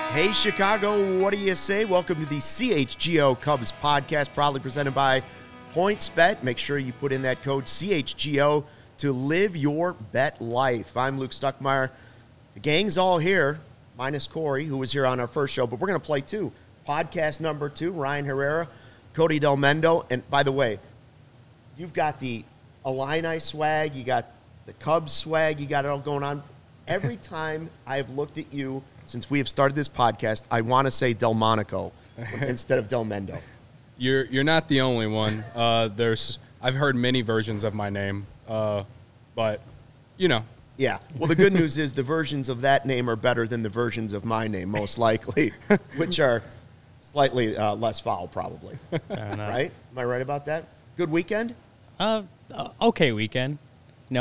Hey, Chicago, what do you say? Welcome to the CHGO Cubs podcast, proudly presented by PointsBet. Make sure you put in that code CHGO to live your bet life. I'm Luke Stuckmeyer. The gang's all here, minus Corey, who was here on our first show, but we're going to play two. Podcast number 2, Ryan Herrera, Cody Del Mendo. And by the way, you've got the Illini swag, you got the Cubs swag, you got it all going on. Every time I have looked at you since we have started this podcast, I want to say Delmonico instead of Del Mendo. You're not the only one. I've heard many versions of my name, but you know. Yeah. Well, the good news is the versions of that name are better than the versions of my name, most likely, which are slightly less foul, probably. Right? Am I right about that? Good weekend? Okay weekend. No,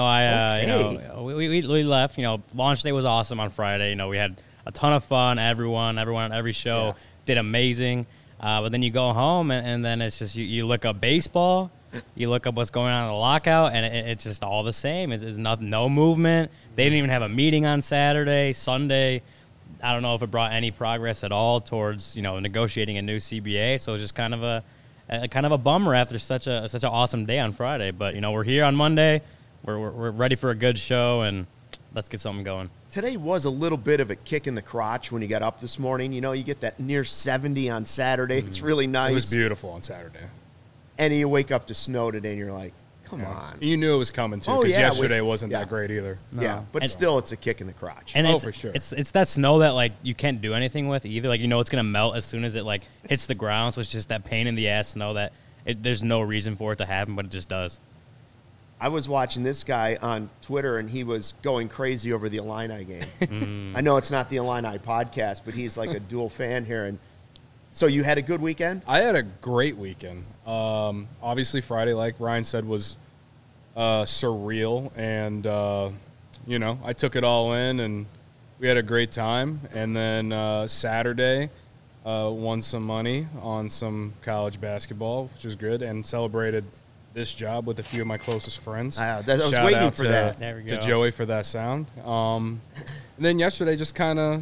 we left. Launch day was awesome on Friday. We had a ton of fun. Everyone on every show did amazing. But then you go home, and then it's just you look up baseball, you look up what's going on in the lockout, and it's just all the same. It's no movement. They didn't even have a meeting on Saturday, Sunday. I don't know if it brought any progress at all towards negotiating a new CBA. So it was just kind of a bummer after such an awesome day on Friday. But we're here on Monday. We're ready for a good show, and let's get something going. Today was a little bit of a kick in the crotch when you got up this morning. You get that near 70 on Saturday. It's really nice. It was beautiful on Saturday. And you wake up to snow today, and you're like, come on. You knew it was coming, too, because yesterday wasn't that great either. No. Yeah, but still, it's a kick in the crotch. And for sure. It's that snow that, you can't do anything with either. It's going to melt as soon as it, hits the ground. So it's just that pain-in-the-ass snow that there's no reason for it to happen, but it just does. I was watching this guy on Twitter, and he was going crazy over the Illini game. I know it's not the Illini podcast, but he's like a dual fan here. And so you had a good weekend? I had a great weekend. Obviously, Friday, like Ryan said, was surreal. And, I took it all in, and we had a great time. And then Saturday, won some money on some college basketball, which was good, and celebrated this job with a few of my closest friends. I was waiting for that. There we go. To Joey for that sound. And then yesterday just kind of,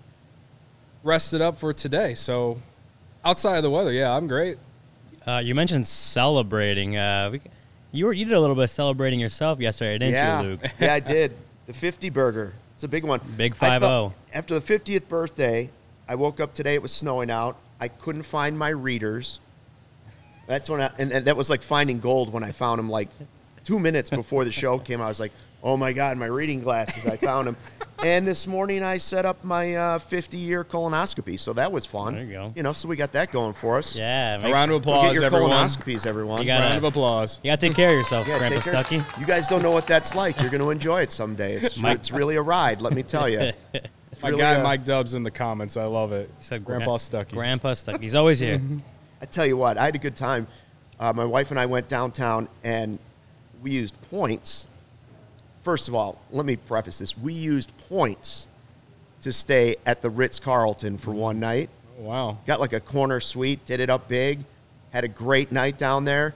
rested up for today. So outside of the weather, I'm great. You mentioned celebrating. You did a little bit of celebrating yourself yesterday, didn't you, Luke? Yeah, I did. The 50 burger. It's a big one. Big 5-0. After the 50th birthday, I woke up today. It was snowing out. I couldn't find my readers. That's when and that was like finding gold when I found them 2 minutes before the show came out. I was like, oh, my God, my reading glasses, I found them. And this morning I set up my 50-year colonoscopy, so that was fun. There you go. So we got that going for us. Yeah. A round of applause, get your everyone. Colonoscopies, everyone. Round of applause. You got to take care of yourself, Grandpa take care. Stuckey. You guys don't know what that's like. You're going to enjoy it someday. It's really a ride, let me tell you. My guy Mike Dubs in the comments. I love it. He said Grandpa Stuckey. Grandpa Stuckey. He's always here. I tell you what, I had a good time. My wife and I went downtown, and we used points. First of all, let me preface this. We used points to stay at the Ritz-Carlton for one night. Oh, wow. Got a corner suite, did it up big, had a great night down there.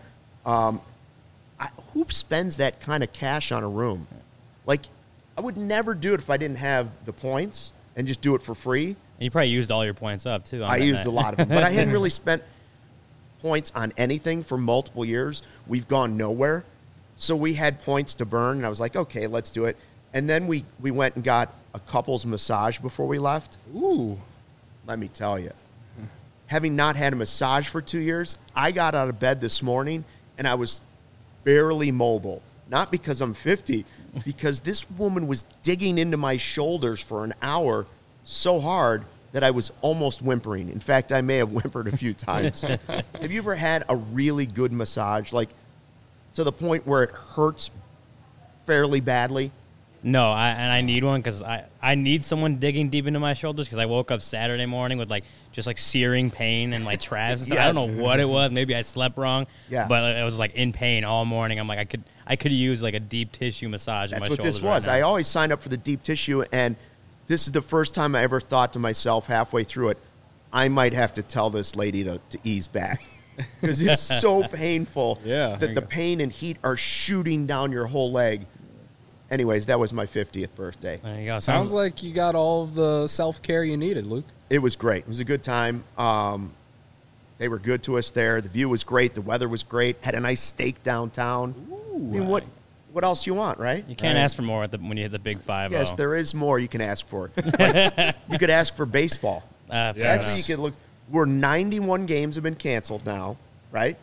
Who spends that kind of cash on a room? I would never do it if I didn't have the points and just do it for free. And you probably used all your points up, too. I used a lot of them, but I hadn't really spent points on anything for multiple years. We've gone nowhere. So we had points to burn, and I was like, okay, let's do it. And then we went and got a couple's massage before we left. Ooh. Let me tell you. Having not had a massage for 2 years, I got out of bed this morning, and I was barely mobile. Not because I'm 50, because this woman was digging into my shoulders for an hour so hard that I was almost whimpering. In fact, I may have whimpered a few times. Have you ever had a really good massage, to the point where it hurts fairly badly? No, I need one because I need someone digging deep into my shoulders because I woke up Saturday morning with just searing pain and traps and stuff. Yes. I don't know what it was. Maybe I slept wrong. Yeah. But it was in pain all morning. I'm I could use a deep tissue massage in my shoulders. That's what this was. Right now. I always signed up for the deep tissue, and this is the first time I ever thought to myself halfway through it, I might have to tell this lady to ease back. Because it's so painful that the pain and heat are shooting down your whole leg. anyways, that was my 50th birthday. There you go. Sounds like you got all of the self-care you needed, Luke. It was great. It was a good time. They were good to us there. The view was great. The weather was great. Had a nice steak downtown. Ooh, I mean, what else you want, right? You can't ask for more when you hit the big 5-0. Yes, there is more you can ask for. Like, you could ask for baseball. Fair Yeah. That's what you could look. We're 91 games have been canceled now, right?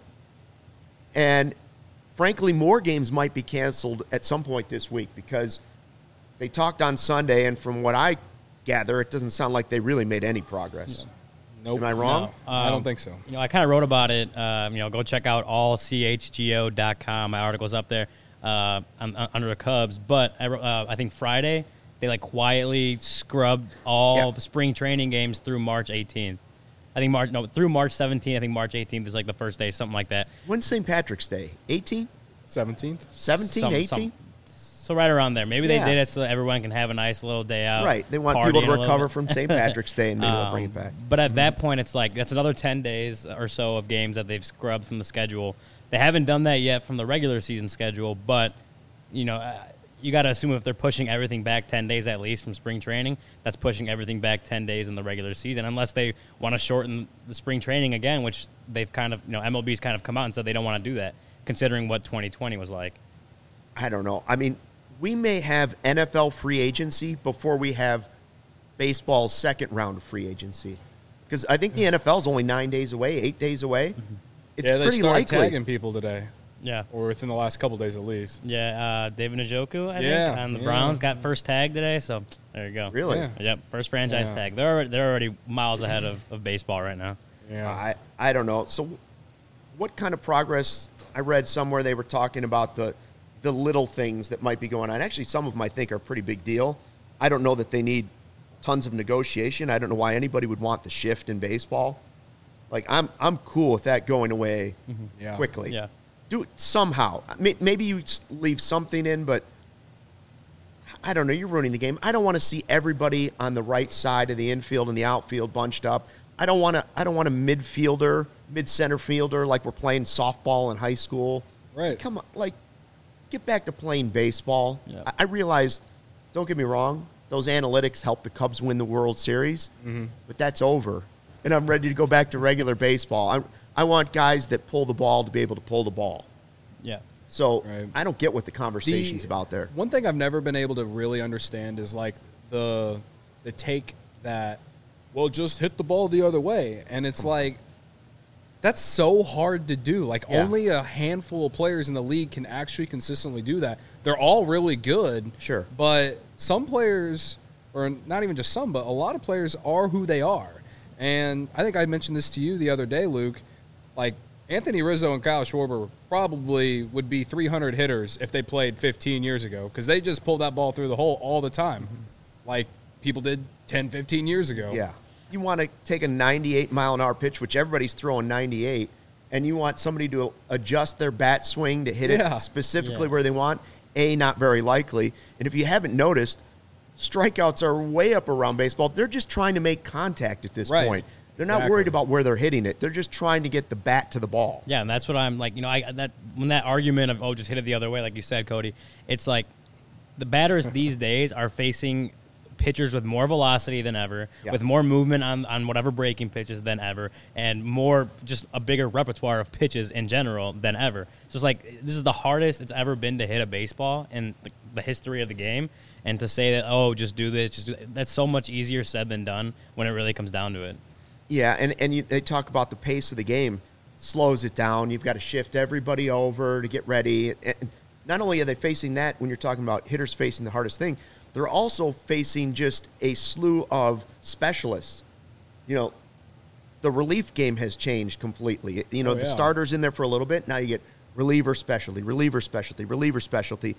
And frankly, more games might be canceled at some point this week because they talked on Sunday, and from what I gather, it doesn't sound like they really made any progress. Nope. Am I wrong? No. I don't think so. I kind of wrote about it. Go check out allchgo.com. My article's up there under the Cubs. But I think Friday they quietly scrubbed all the spring training games through March 18th. I think through March 17th. I think March 18th is the first day, something like that. When's St. Patrick's Day? 18? 17th? 17, 18? So right around there. Maybe they Yeah. did it so everyone can have a nice little day out. Right. They want people to recover from St. Patrick's Day and maybe they'll bring it back. But at that point, it's that's another 10 days or so of games that they've scrubbed from the schedule. They haven't done that yet from the regular season schedule, but, you got to assume if they're pushing everything back 10 days at least from spring training, that's pushing everything back 10 days in the regular season, unless they want to shorten the spring training again, which they've kind of, MLB's kind of come out and said they don't want to do that, considering what 2020 was like. I don't know. I mean, we may have NFL free agency before we have baseball's second round of free agency. Because I think the NFL is only 9 days away, 8 days away. It's they pretty started likely. tagging people today, Yeah. or within the last couple days at least. Yeah, David Njoku, I think, Yeah, and the yeah. Browns got first tag today, so there you go. Really? Yeah. Yep, first franchise Yeah. tag. They're already miles ahead of baseball right now. Yeah. I don't know. So what kind of progress? I read somewhere they were talking about the little things that might be going on. Actually, some of them I think are a pretty big deal. I don't know that they need tons of negotiation. I don't know why anybody would want the shift in baseball. I'm cool with that going away Yeah. quickly. Yeah. Do it somehow. Maybe you leave something in, but I don't know. You're ruining the game. I don't want to see everybody on the right side of the infield and the outfield bunched up. I don't want a midfielder, mid-center fielder like we're playing softball in high school. Right. Come on, get back to playing baseball. Yeah. I realized, don't get me wrong, those analytics helped the Cubs win the World Series, but that's over. And I'm ready to go back to regular baseball. I want guys that pull the ball to be able to pull the ball. Yeah. So Right. I don't get what the conversation's about there. One thing I've never been able to really understand is the take that, well, just hit the ball the other way. And it's that's so hard to do. Yeah. Only a handful of players in the league can actually consistently do that. They're all really good. Sure. But some players, or not even just some, but a lot of players are who they are. And I think I mentioned this to you the other day, Luke. Anthony Rizzo and Kyle Schwarber probably would be 300 hitters if they played 15 years ago because they just pulled that ball through the hole all the time like people did 10, 15 years ago. Yeah. You want to take a 98-mile-an-hour pitch, which everybody's throwing 98, and you want somebody to adjust their bat swing to hit Yeah. it specifically where they want. Not very likely. And if you haven't noticed, strikeouts are way up around baseball. They're just trying to make contact at this Right. point. They're not Exactly. worried about where they're hitting it. They're just trying to get the bat to the ball. Yeah, and that's what I'm when that argument of just hit it the other way, like you said, Cody, it's the batters these days are facing pitchers with more velocity than ever, Yeah. with more movement on whatever breaking pitches than ever, and more just a bigger repertoire of pitches in general than ever. So it's this is the hardest it's ever been to hit a baseball in the history of the game, and to say that just do this, that's so much easier said than done when it really comes down to it. Yeah, and they talk about the pace of the game slows it down. You've got to shift everybody over to get ready. And not only are they facing that when you're talking about hitters facing the hardest thing, they're also facing just a slew of specialists. The relief game has changed completely. The starter's in there for a little bit. Now you get reliever specialty, reliever specialty, reliever specialty.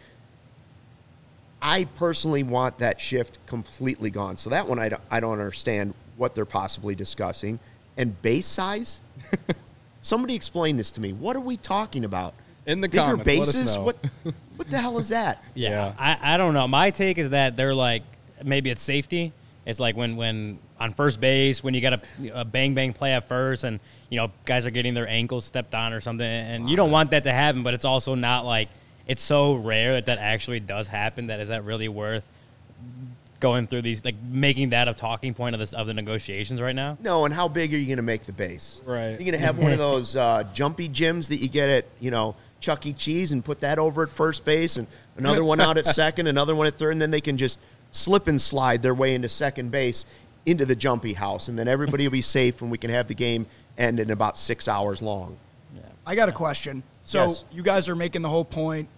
I personally want that shift completely gone. So that one I don't understand what they're possibly discussing. And base size? Somebody explain this to me. What are we talking about? In the Bigger comments, bases? let us know. What the hell is that? Yeah. I don't know. My take is that they're maybe it's safety. It's when on first base, when you got a bang play at first and, guys are getting their ankles stepped on or something. And you don't want that to happen, but it's also not it's so rare that actually does happen. That is that really worth going through these, like making that a talking point of the negotiations right now? No, and how big are you going to make the base? Right. You're going to have one of those jumpy gyms that you get at, Chuck E. Cheese and put that over at first base and another one out at second, another one at third, and then they can just slip and slide their way into second base into the jumpy house, and then everybody will be safe and we can have the game end in about 6 hours long. Yeah. I got a question. So Yes. You guys are making the whole point.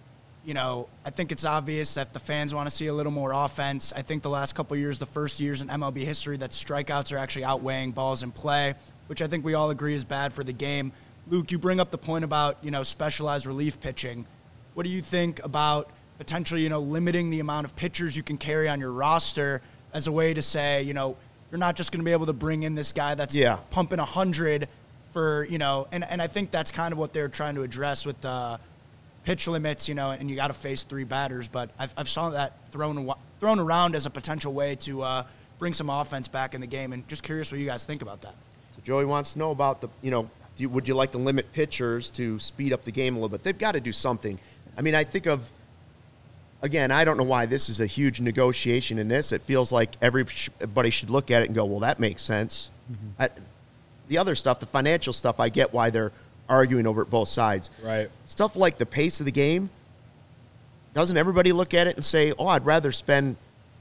I think it's obvious that the fans want to see a little more offense. I think the last couple of years, the first years in MLB history, that strikeouts are actually outweighing balls in play, which I think we all agree is bad for the game. Luke, you bring up the point about, specialized relief pitching. What do you think about potentially, limiting the amount of pitchers you can carry on your roster as a way to say, you're not just going to be able to bring in this guy that's pumping 100 for, and I think that's kind of what they're trying to address with the pitch limits, and you got to face 3 batters. But I've saw that thrown around as a potential way to bring some offense back in the game, and just curious what you guys think about that. So Joey wants to know about would you like to limit pitchers to speed up the game a little bit? They've got to do something. I mean, I think of, again, I don't know why this is a huge negotiation in this. It feels like everybody should look at it and go, well, that makes sense. Mm-hmm. The other stuff, the financial stuff, I get why they're arguing over at both sides. Right. Stuff like the pace of the game, doesn't everybody look at it and say, oh, I'd rather spend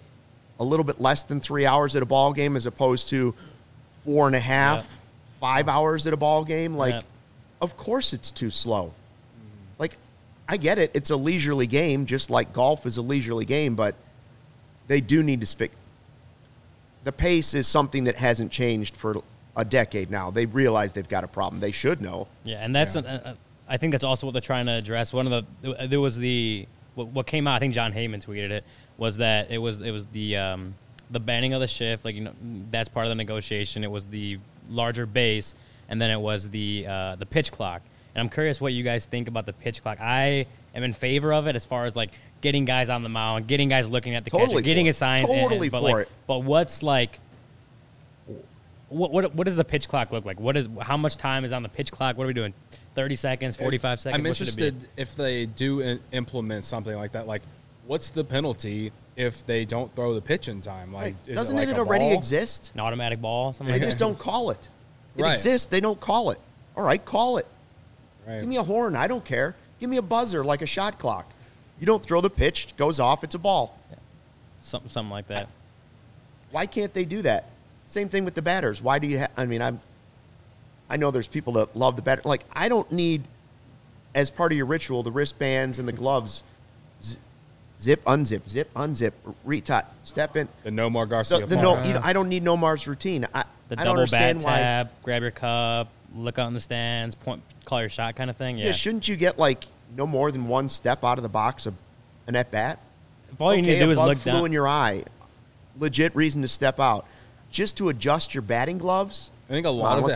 a little bit less than 3 hours at a ball game as opposed to 4.5, 5 hours at a ball game? Like, of course it's too slow. Like, I get it. It's a leisurely game, just like golf is a leisurely game, but they do need to speak. The pace is something that hasn't changed for a decade now. They realize they've got a problem. They should know. Yeah, and that's I think that's also what they're trying to address. There was what came out. I think John Heyman tweeted it. Was that it was the banning of the shift. Like, that's part of the negotiation. It was the larger base, and then it was the pitch clock. And I'm curious what you guys think about the pitch clock. I am in favor of it as far as like getting guys on the mound, getting guys looking at the catcher, getting his signs. But what's like? What does the pitch clock look like? How much time is on the pitch clock? What are we doing? 30 seconds, 45 seconds? I'm interested if they do implement something like that. Like, what's the penalty if they don't throw the pitch in time? Like, doesn't it already exist? An automatic ball? They just don't call it. It exists. They don't call it. All right, call it. Right. Give me a horn. I don't care. Give me a buzzer like a shot clock. You don't throw the pitch, it goes off, it's a ball. Yeah. Something like that. Why can't they do that? Same thing with the batters. Why do you I know there's people that love the batter. Like, I don't need, as part of your ritual, the wristbands and the gloves. Zip, unzip, retie, step in. The Nomar Garcia. I don't need Nomar's routine. I don't understand bat tab, grab your cup, look out in the stands, point, call your shot kind of thing. Yeah. Shouldn't you get like no more than one step out of the box of an at bat? If all you need to do is look down. Flew in your eye, legit reason to step out. Just to adjust your batting gloves. I think a lot of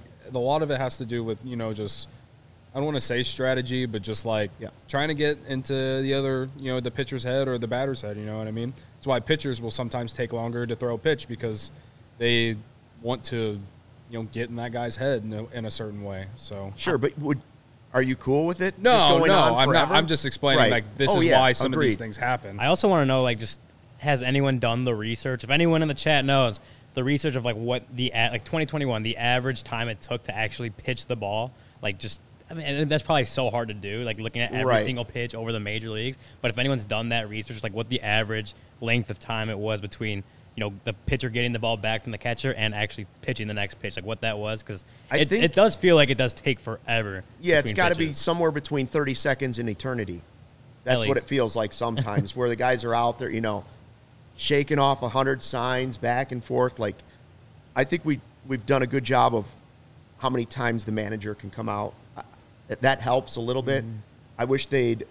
it has to do with, just, I don't want to say strategy, but just like trying to get into the other, the pitcher's head or the batter's head. You know what I mean? That's why pitchers will sometimes take longer to throw a pitch, because they want to, get in that guy's head in a certain way. So sure, but are you cool with it? No, I'm not. I'm just explaining like this is why some of these things happen. I also want to know, like, just has anyone done the research? If anyone in the chat knows the research of like what like 2021, the average time it took to actually pitch the ball, like just. I mean, and that's probably so hard to do, like looking at every single pitch over the major leagues. But if anyone's done that research, like what the average length of time it was between, the pitcher getting the ball back from the catcher and actually pitching the next pitch, like what that was, because it does feel like it does take forever. Yeah, it's got to be somewhere between 30 seconds and eternity. That's what it feels like sometimes, where the guys are out there, shaking off 100 signs back and forth. Like, I think we've done a good job of how many times the manager can come out. That helps a little bit. I wish they'd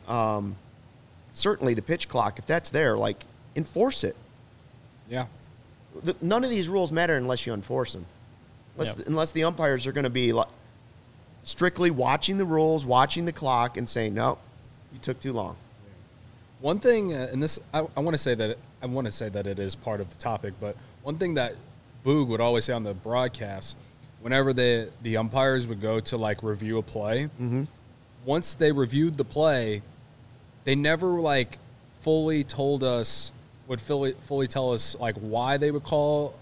certainly the pitch clock, if that's there, like, enforce it. Yeah. None of these rules matter unless you enforce them. Unless the umpires are going to be strictly watching the rules, watching the clock, and saying, no, you took too long. One thing, and this I want to say that it is part of the topic, but one thing that Boog would always say on the broadcast, whenever the umpires would go to like review a play, once they reviewed the play, they never like fully told us, fully tell us like why they would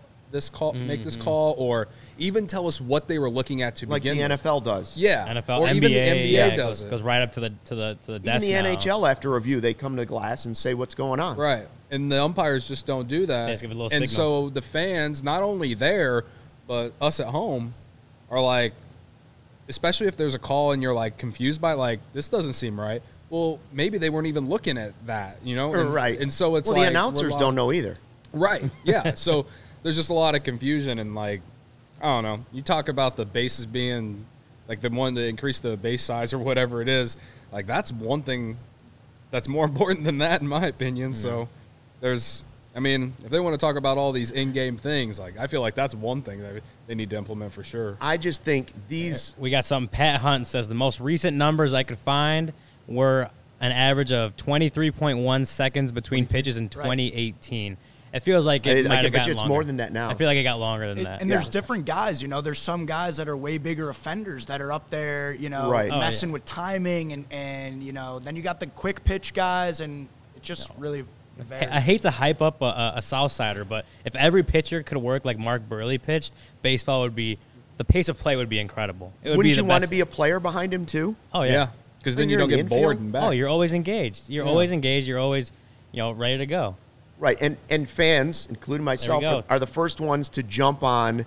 make this call, or even tell us what they were looking at to begin with. Like the NFL does. Yeah, NFL, or NBA, even the NBA does goes right up to the desk. Even the now. NHL, after review, they come to glass and say what's going on. Right. And the umpires just don't do that. They just give a little and signal. so the fans, not only there, but us at home, are like, especially if there's a call and you're like confused by like, this doesn't seem right. Well, maybe they weren't even looking at that, you know? And, Right. And so it's well, like. the announcers don't know either. Right. Yeah. So there's just a lot of confusion and like, I don't know. You talk about the bases being like the one to increase the base size or whatever it is. Like that's one thing that's more important than that, in my opinion. So there's, I mean, if they want to talk about all these in-game things, like I feel like that's one thing that they need to implement for sure. I just think these. We got something. Pat Hunt says the most recent numbers I could find were an average of 23.1 seconds between pitches in 2018. It feels like it might I have bet gotten you it's longer. more than that now. I feel like it got longer than that. And there's different guys, you know. There's some guys that are way bigger offenders that are up there, you know, Right. messing with timing and you know. Then you got the quick pitch guys, and it just really varies. I hate to hype up a Southsider, but if every pitcher could work like Mark Burley pitched, baseball would be the pace of play would be incredible. It would Wouldn't be the you want to best. be a player behind him too? Oh Yeah. yeah. Because Then then you you're don't in get the bored infield? and back. Oh, you're always engaged. You're always engaged. You're always, ready to go. Right, and fans, including myself, go. are the first ones to jump on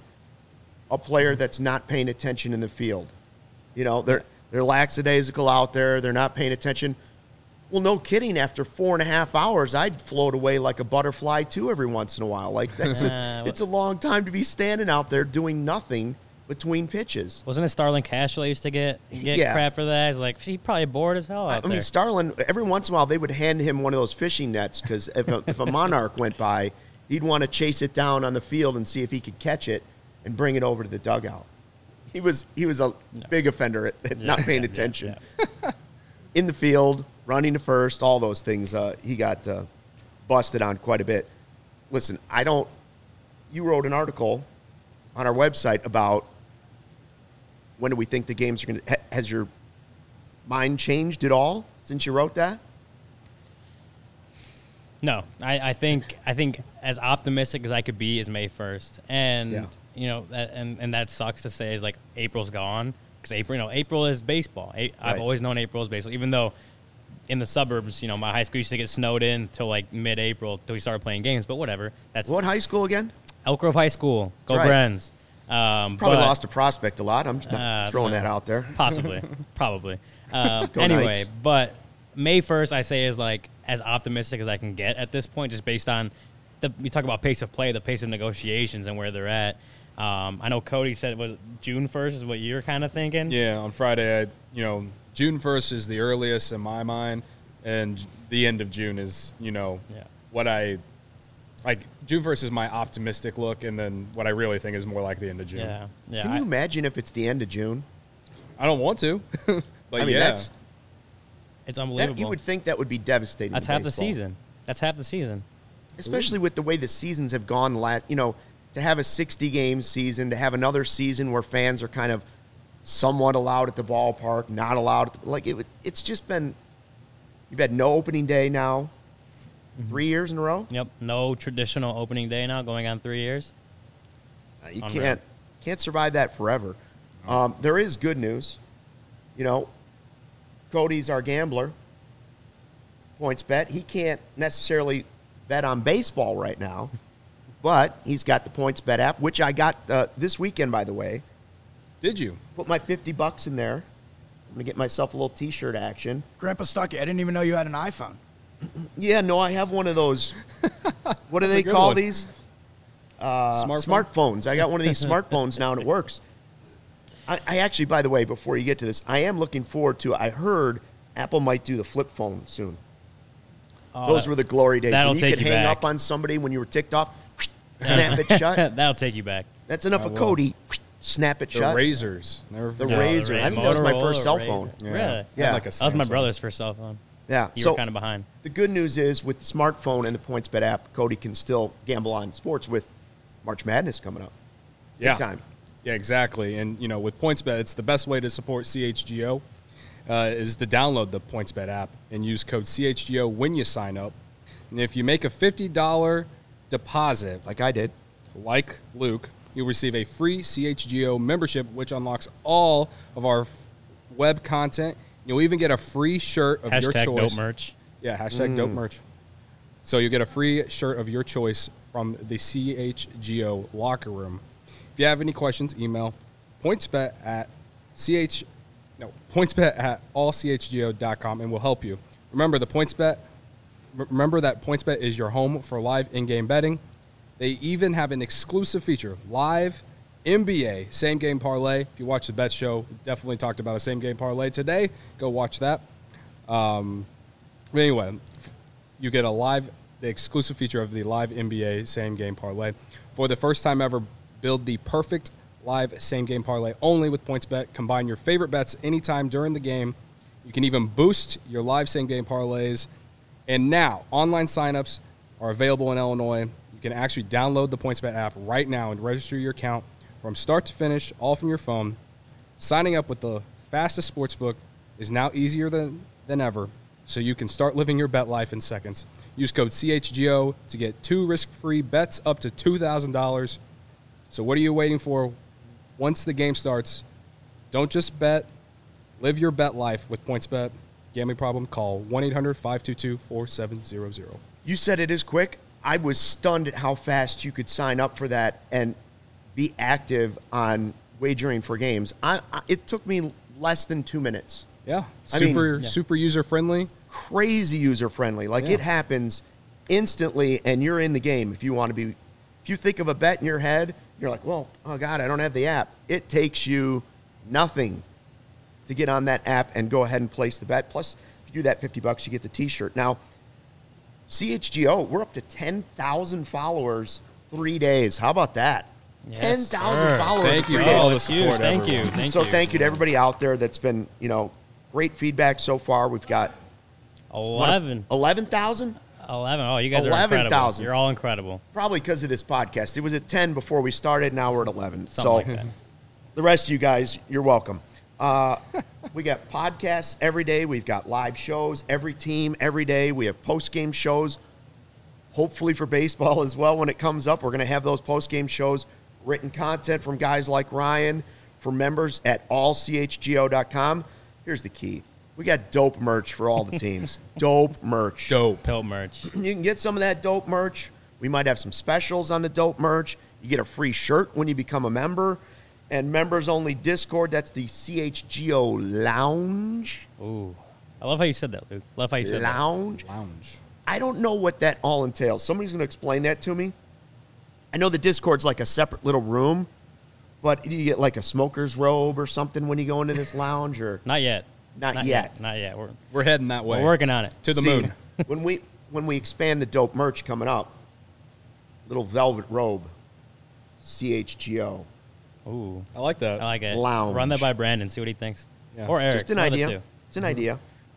a player that's not paying attention in the field. You know, they're lackadaisical out there. They're not paying attention. Well, no kidding. After 4.5 hours, I'd float away like a butterfly too every once in a while. Like that's it's a long time to be standing out there doing nothing between pitches. Wasn't it Starlin Castro used to get Yeah. crap for that? He's like, he probably bored as hell out I there. mean, Starlin, every once in a while, they would hand him one of those fishing nets because if a monarch went by, he'd want to chase it down on the field and see if he could catch it and bring it over to the dugout. He was a big offender at not paying attention. In the field, running to first, all those things, he got busted on quite a bit. Listen, you wrote an article on our website about when do we think the games are going to, has your mind changed at all since you wrote that? No, I think as optimistic as I could be is May 1st, and and that sucks to say is like April's gone because April is baseball. I've always known April is baseball, even though in the suburbs, my high school used to get snowed in till like mid-April till we started playing games. But whatever, that's What high school again? Elk Grove High School. Go That's right. Brens. Probably lost a prospect a lot. I'm just not throwing that out there. Possibly. Anyway, Knights. but May 1st, I say, is like as optimistic as I can get at this point, just based on we talk about pace of play, the pace of negotiations, and where they're at. I know Cody said June 1st is what you're kind of thinking. Yeah, on Friday, June 1st is the earliest in my mind, and the end of June is, what I like. June 1st is my optimistic look, and then what I really think is more like the end of June. Yeah. Can you imagine if it's the end of June? I don't want to, but I mean, yeah. It's unbelievable. You would think that would be devastating. That's to half the baseball. season. That's half the season. Especially with the way the seasons have gone to have a 60-game season, to have another season where fans are kind of somewhat allowed at the ballpark, not allowed. It's just been, you've had no opening day now, 3 years in a row. Yep. No traditional opening day now, going on 3 years. You Unreal. can't survive that forever. There is good news. Cody's our gambler. Points bet. He can't necessarily bet on baseball right now, but he's got the Points Bet app, which I got this weekend, by the way. Did you? Put my $50 in there. I'm going to get myself a little T-shirt action. Grandpa Stuckey, I didn't even know you had an iPhone. Yeah, no, I have one of those. What do That's a they good call one. these? Smartphone? Smartphones. I got one of these smartphones now, and it works. I actually, by the way, before you get to this, I am looking forward to, I heard Apple might do the flip phone soon. Those were the glory days. that'll When you take could you hang back. up on somebody when you were ticked off, snap it shut. That'll take you back. That's enough of Cody. Snap it The shut. Razors. Never The forget. Razor. I think that was my first cell Motorola phone. Razor. Yeah. Really? I had Yeah. like a That was my Samsung. brother's first cell phone. Yeah. You so were kind of behind. the good news is with the smartphone and the PointsBet app, Cody can still gamble on sports with March Madness coming up. Yeah. Big time. Yeah, exactly. And, with PointsBet, it's the best way to support CHGO. is to download the PointsBet app and use code CHGO when you sign up. And if you make a $50 deposit, Like I did. like Luke, you'll receive a free CHGO membership, which unlocks all of our web content. You'll even get a free shirt of your Hashtag choice. dope merch. Yeah, hashtag dope merch. So you get a free shirt of your choice from the CHGO locker room. If you have any questions, email pointsbet at allchgo.com and we'll help you. Remember that PointsBet is your home for live in-game betting. They even have an exclusive feature, live NBA same-game parlay. If you watch the Bet Show, we definitely talked about a same-game parlay today. Go watch that. But anyway, you get the exclusive feature of the live NBA same-game parlay. For the first time ever, build the perfect live same-game parlay only with PointsBet. Combine your favorite bets anytime during the game. You can even boost your live same-game parlays. And now, online signups are available in Illinois. You can actually download the PointsBet app right now and register your account from start to finish, all from your phone. Signing up with the fastest sportsbook is now easier than ever, so you can start living your bet life in seconds. Use code CHGO to get 2 risk-free bets up to $2,000. So what are you waiting for? Once the game starts, don't just bet. Live your bet life with PointsBet. Gambling problem? Call 1-800-522-4700. You said it is quick. I was stunned at how fast you could sign up for that and be active on wagering for games. It took me less than 2 minutes. Yeah, I mean, super user-friendly. Crazy user-friendly. Like, it happens instantly, and you're in the game if you want to be. If you think of a bet in your head, you're like, well, oh, God, I don't have the app. It takes you nothing to get on that app and go ahead and place the bet. Plus, if you do that $50, you get the T-shirt. Now, CHGO, we're up to 10,000 followers 3 days. How about that? Yes, 10,000 followers. Thank you in for 3 all days. the support. Thank you. everyone. Thank So you. thank you to everybody out there that's been, great feedback so far. We've got 11. 11,000? 11. Oh, you guys are 11,000. incredible. You're all incredible. Probably because of this podcast. It was at 10 before we started. Now we're at 11. Something like that. The rest of you guys, you're welcome. We got podcasts every day. We've got live shows every team every day. We have post-game shows, hopefully for baseball as well when it comes up. We're going to have those post-game shows, written content from guys like Ryan, for members at allchgo.com. Here's the key. We got dope merch for all the teams. Dope merch. Dope. Dope merch. You can get some of that dope merch. We might have some specials on the dope merch. You get a free shirt when you become a member. And members-only Discord, that's the CHGO Lounge. Ooh. I love how you said that, Luke. Love how you said that. Lounge. Lounge. I don't know what that all entails. Somebody's going to explain that to me. I know the Discord's like a separate little room, but do you get like a smoker's robe or something when you go into this lounge? Or Not yet. Not yet. Not yet. We're heading that way. We're working on it. To the See, moon. when we expand the dope merch coming up, little velvet robe, CHGO. Ooh. I like that. I like it. Lounge. Run that by Brandon. See what he thinks. Yeah. Or Eric. Just an one of the idea. two. It's an idea.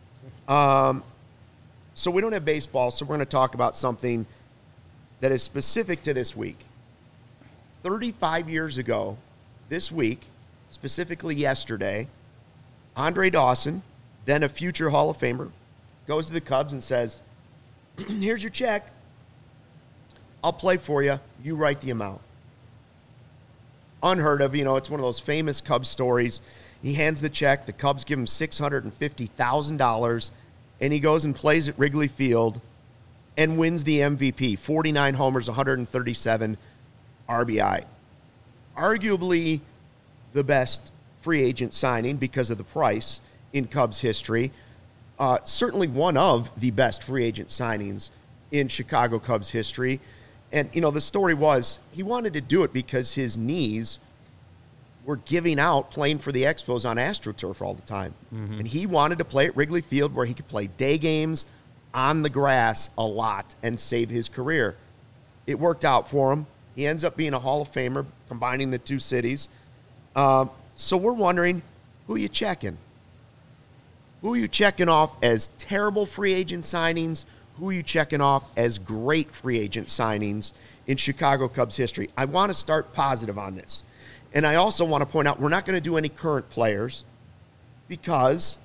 So we don't have baseball, so we're going to talk about something that is specific to this week. 35 years ago, this week, specifically yesterday, Andre Dawson, then a future Hall of Famer, goes to the Cubs and says, here's your check. I'll play for you. You write the amount. Unheard of. It's one of those famous Cubs stories. He hands the check. The Cubs give him $650,000, and he goes and plays at Wrigley Field and wins the MVP. 49 homers, 137 RBI. Arguably the best free agent signing because of the price in Cubs history. Certainly one of the best free agent signings in Chicago Cubs history. And, the story was he wanted to do it because his knees were giving out playing for the Expos on AstroTurf all the time. Mm-hmm. And he wanted to play at Wrigley Field where he could play day games on the grass a lot and save his career. It worked out for him. He ends up being a Hall of Famer, combining the two cities. So we're wondering, who are you checking? Who are you checking off as terrible free agent signings? Who are you checking off as great free agent signings in Chicago Cubs history? I want to start positive on this. And I also want to point out we're not going to do any current players because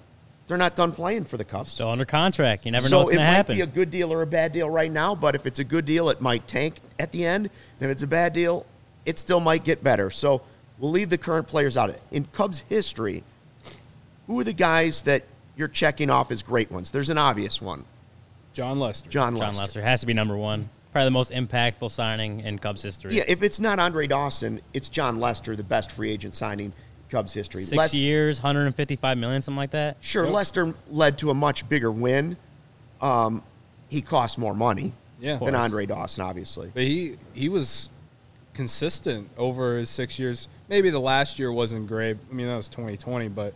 they're not done playing for the Cubs. Still under contract. You never know what's going to happen. So it might be a good deal or a bad deal right now, but if it's a good deal, it might tank at the end. And if it's a bad deal, it still might get better. So we'll leave the current players out of it. In Cubs history, who are the guys that you're checking off as great ones? There's an obvious one. John Lester. John Lester has to be number one. Probably the most impactful signing in Cubs history. Yeah, if it's not Andre Dawson, it's John Lester, the best free agent signing in Cubs history. 6 years, $155 million, something like that. Sure, yep. Lester led to a much bigger win. He cost more money than Andre Dawson, obviously. But he was consistent over his 6 years. Maybe the last year wasn't great. I mean, that was 2020, but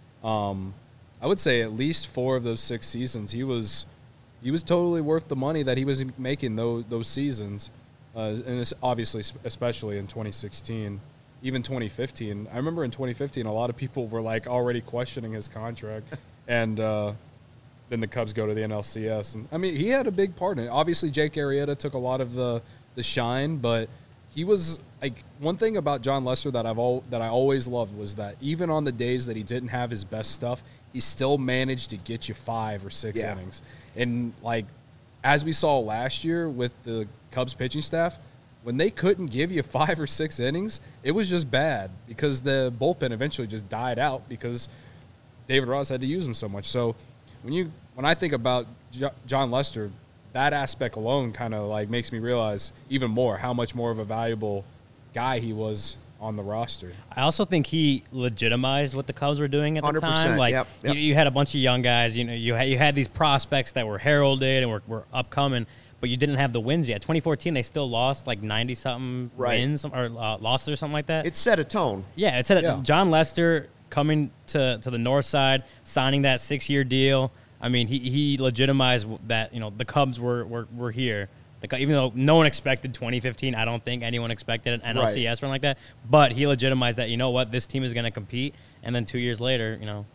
I would say at least 4 of those 6 seasons, he was totally worth the money that he was making those seasons, and it's obviously, especially in 2016, even 2015. I remember in 2015, a lot of people were like already questioning his contract, and then the Cubs go to the NLCS, and I mean he had a big part in it. Obviously, Jake Arrieta took a lot of the shine, but he was like one thing about John Lester that I always loved was that even on the days that he didn't have his best stuff, he still managed to get you 5 or 6 innings. And, like, as we saw last year with the Cubs pitching staff, when they couldn't give you 5 or 6 innings, it was just bad because the bullpen eventually just died out because David Ross had to use them so much. So when I think about John Lester, that aspect alone kind of, like, makes me realize even more how much more of a valuable guy he was on the roster. I also think he legitimized what the Cubs were doing at the time. Like yep. You had a bunch of young guys. You know, you had these prospects that were heralded and were upcoming, but you didn't have the wins yet. 2014, they still lost like 90-something wins or losses or something like that. It set a tone. Yeah, it set John Lester coming to the north side, signing that 6-year deal. I mean, he legitimized that. You know, the Cubs were here. Even though no one expected 2015, I don't think anyone expected an NLCS run like that. But he legitimized that, you know what, this team is going to compete. And then 2 years later, you know,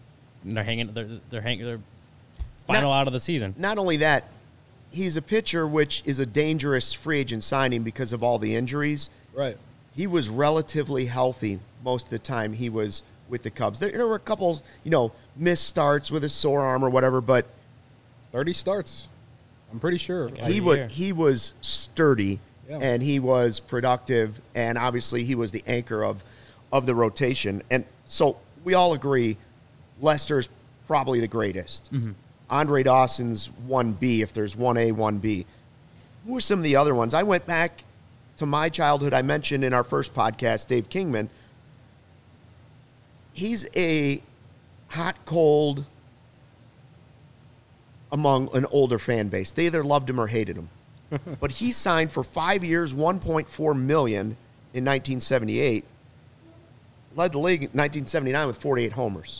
they're final out of the season. Not only that, he's a pitcher, which is a dangerous free agent signing because of all the injuries. Right. He was relatively healthy most of the time he was with the Cubs. There were a couple, missed starts with a sore arm or whatever, but 30 starts. I'm pretty sure. He was sturdy, and he was productive, and obviously he was the anchor of the rotation. And so we all agree Lester's probably the greatest. Mm-hmm. Andre Dawson's 1B if there's 1A, 1B. Who are some of the other ones? I went back to my childhood. I mentioned in our first podcast, Dave Kingman. He's a hot, cold among an older fan base. They either loved him or hated him. But he signed for 5 years, $1.4 million in 1978. Led the league in 1979 with 48 homers.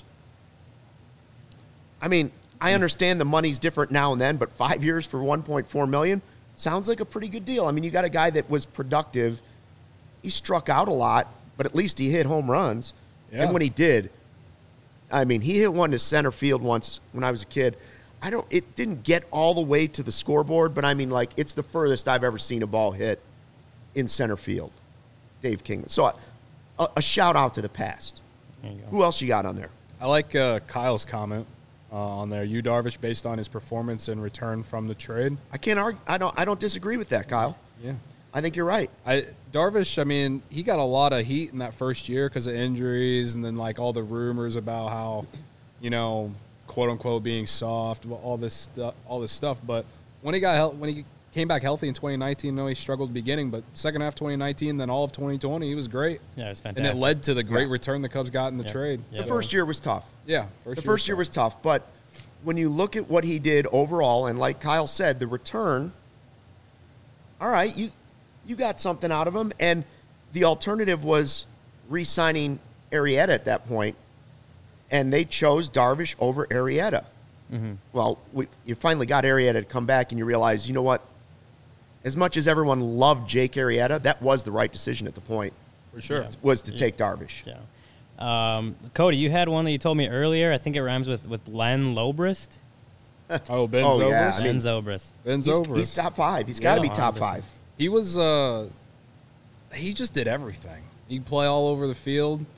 I mean, I understand the money's different now and then, but 5 years for $1.4 million sounds like a pretty good deal. I mean, you got a guy that was productive. He struck out a lot, but at least he hit home runs. Yeah. And when he did, I mean, he hit one to center field once when I was a kid. It didn't get all the way to the scoreboard, but I mean, like, it's the furthest I've ever seen a ball hit in center field. Dave Kingman. So a shout out to the past. Who else you got on there? I like Kyle's comment on there. Yu Darvish, based on his performance and return from the trade. I can't argue. I don't disagree with that, Kyle. Yeah. I think you're right. Darvish, I mean, he got a lot of heat in that first year because of injuries and then, like, all the rumors about how, quote unquote being soft, all this stuff. But when he came back healthy in 2019, he struggled at the beginning, but second half 2019, then all of 2020, he was great. Yeah, it was fantastic. And it led to the great return the Cubs got in the trade. The first year was tough. Yeah, the first year was tough. But when you look at what he did overall, and like Kyle said, the return, all right, you got something out of him, and the alternative was re-signing Arrieta at that point. And they chose Darvish over Arrieta. Mm-hmm. Well, you finally got Arrieta to come back, and you realize, you know what? As much as everyone loved Jake Arrieta, that was the right decision at the point. For sure. Was to take Darvish. Yeah. Cody, you had one that you told me earlier. I think it rhymes with Len Zobrist. Ben Zobrist? Yeah. Ben Zobrist. Ben Zobrist. He's top 5. He's got to be top 5. He was he just did everything. He'd play all over the field.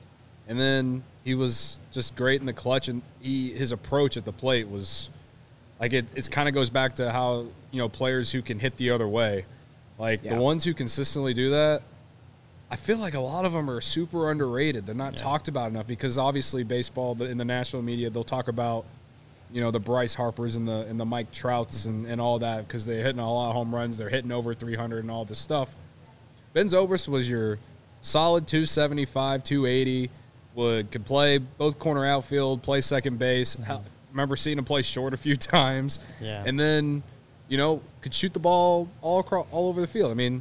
And then he was just great in the clutch, and his approach at the plate was like it kind of goes back to how, players who can hit the other way, like the ones who consistently do that, I feel like a lot of them are super underrated. They're not talked about enough because obviously baseball, in the national media, they'll talk about, the Bryce Harpers and the Mike Trouts and all that because they're hitting a lot of home runs. They're hitting over 300 and all this stuff. Ben Zobrist was your solid 275, 280, could play both corner outfield, play second base. Remember seeing him play short a few times. Yeah. And then, could shoot the ball all over the field. I mean,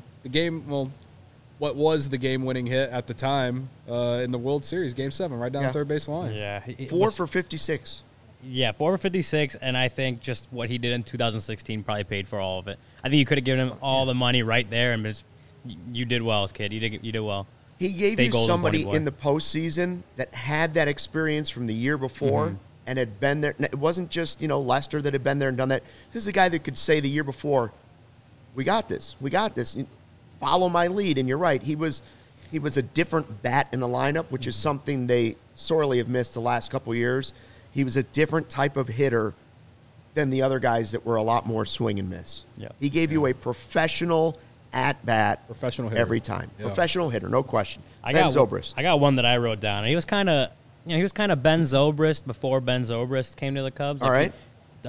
what was the game-winning hit at the time in the World Series, Game 7, right down the third base line. Yeah. 4 for 56. Yeah, 4 for 56, and I think just what he did in 2016 probably paid for all of it. I think you could have given him all the money right there, and you did well, kid. You did well. He gave you somebody in the postseason that had that experience from the year before and had been there. It wasn't just, Lester that had been there and done that. This is a guy that could say the year before, we got this. Follow my lead. And you're right. He was a different bat in the lineup, which is something they sorely have missed the last couple of years. He was a different type of hitter than the other guys that were a lot more swing and miss. Yep. He gave you a professional at-bat professional hitter. every time. Yeah. Professional hitter, no question. Ben Zobrist. I got one that I wrote down. He was kind of Ben Zobrist before Ben Zobrist came to the Cubs. All right.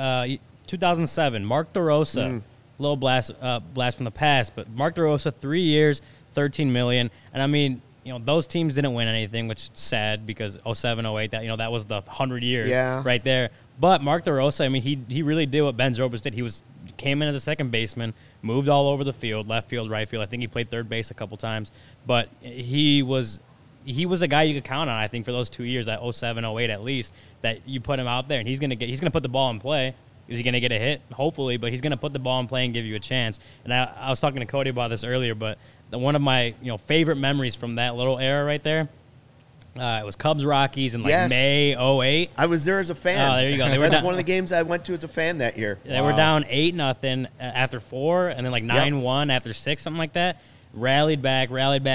2007, Mark DeRosa. Little blast from the past, but Mark DeRosa, 3 years, $13 million. And I mean, those teams didn't win anything, which is sad because 07, 08, that was the 100 years right there. But Mark DeRosa, I mean, he really did what Ben Zobrist did. He came in as a second baseman, moved all over the field, left field, right field. I think he played third base a couple times, but he was a guy you could count on. I think for those 2 years, that 07, 08 at least, that you put him out there and he's gonna put the ball in play. Is he gonna get a hit? Hopefully, but he's gonna put the ball in play and give you a chance. And I was talking to Cody about this earlier, but one of my favorite memories from that little era right there. It was Cubs Rockies in May 08. I was there as a fan. Oh, there you go. That's one of the games I went to as a fan that year. They were down 8-0 after 4, and then 9-1 after 6, something like that. Rallied back.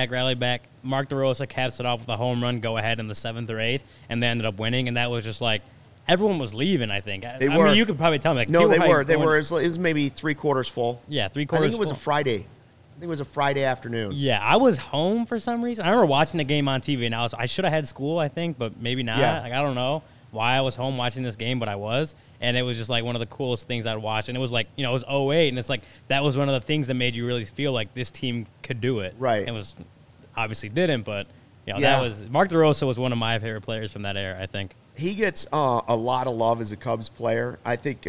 Mark DeRosa caps it off with a home run, go ahead in the 7th or 8th, and they ended up winning. And that was just like everyone was leaving. I think. I mean, you could probably tell me. No, they were. They were. It was maybe 3/4 full. Yeah, 3/4. I think it was a Friday. It was a Friday afternoon. Yeah, I was home for some reason. I remember watching the game on TV, and I should have had school, I think, but maybe not. Yeah. I don't know why I was home watching this game, but I was. And it was just one of the coolest things I'd watch. And it was it was 08, and it's that was one of the things that made you really feel like this team could do it. Right. It was obviously didn't, but that was Mark DeRosa was one of my favorite players from that era, I think. He gets a lot of love as a Cubs player. I think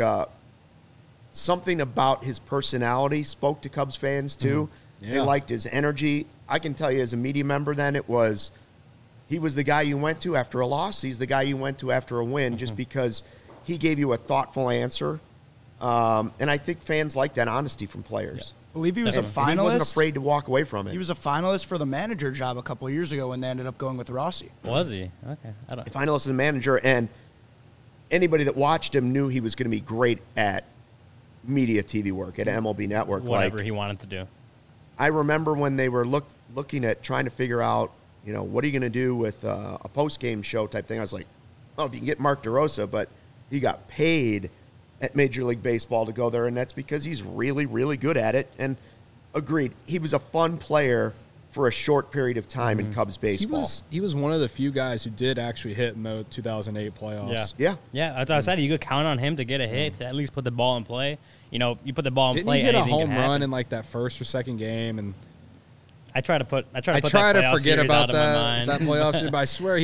something about his personality spoke to Cubs fans too. They liked his energy. I can tell you as a media member then he was the guy you went to after a loss. He's the guy you went to after a win just because he gave you a thoughtful answer. And I think fans like that honesty from players. I believe he was a finalist. He wasn't afraid to walk away from it. He was a finalist for the manager job a couple of years ago when they ended up going with Rossi. Was he? Okay. A finalist and manager, and anybody that watched him knew he was going to be great at media TV work, at MLB Network. Whatever he wanted to do. I remember when they were looking at trying to figure out, what are you going to do with a post-game show type thing. I was like, well, if you can get Mark DeRosa, but he got paid at Major League Baseball to go there, and that's because he's really, really good at it. And agreed, he was a fun player for a short period of time in Cubs baseball. He was one of the few guys who did actually hit in the 2008 playoffs. Yeah. That's what I said. You could count on him to get a hit, to at least put the ball in play. You put the ball in play. Didn't he hit a home run in that first or second game? And I try to forget about that playoff series, but I swear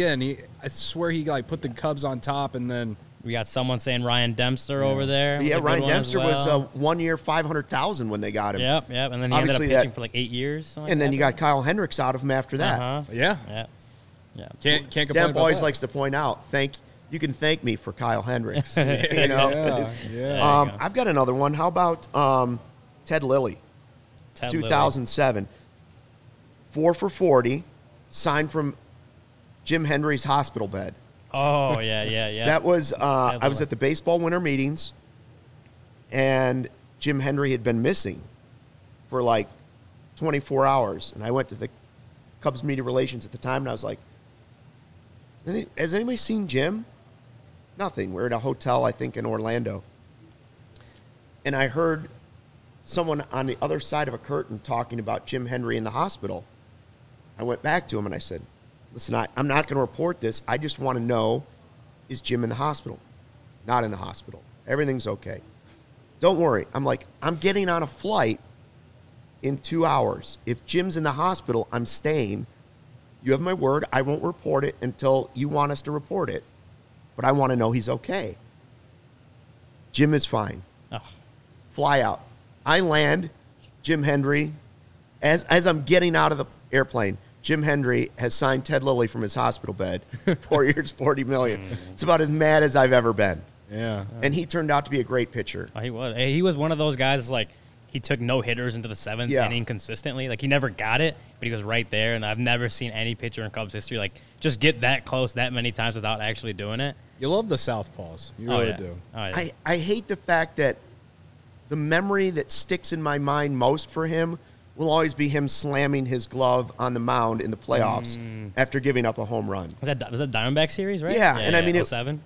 he put the Cubs on top, and then we got someone saying Ryan Dempster over there. Yeah, Ryan Dempster was 1 year $500,000 when they got him. Yep, and then he ended up pitching for 8 years. And then you got Kyle Hendricks out of him after that. Yeah. Can't complain. Demp always likes to point out, you can thank me for Kyle Hendricks. I've got another one. How about Ted Lilly? 2007. 4 for 40, signed from Jim Hendry's hospital bed. Oh, yeah. That was, I was at the baseball winter meetings, and Jim Hendry had been missing for 24 hours. And I went to the Cubs media relations at the time, and I was like, Has anybody seen Jim? Nothing. We're at a hotel, I think, in Orlando. And I heard someone on the other side of a curtain talking about Jim Hendry in the hospital. I went back to him and I said, listen, I'm not going to report this. I just want to know, is Jim in the hospital? Not in the hospital. Everything's okay. Don't worry. I'm like, I'm getting on a flight in 2 hours. If Jim's in the hospital, I'm staying. You have my word. I won't report it until you want us to report it. But I want to know he's okay. Jim is fine. Oh. Fly out. I land. Jim Hendry, as I'm getting out of the airplane, Jim Hendry has signed Ted Lilly from his hospital bed. 4 years, $40 million. It's about as mad as I've ever been. Yeah. And he turned out to be a great pitcher. Oh, he was. He was one of those guys, like, he took no hitters into the seventh inning consistently. Like, he never got it, but he was right there. And I've never seen any pitcher in Cubs history, like, just get that close that many times without actually doing it. You love the southpaws. You really do. Oh, yeah. I hate the fact that the memory that sticks in my mind most for him will always be him slamming his glove on the mound in the playoffs after giving up a home run. Was that Diamondback series, right? Yeah, and I mean, 07?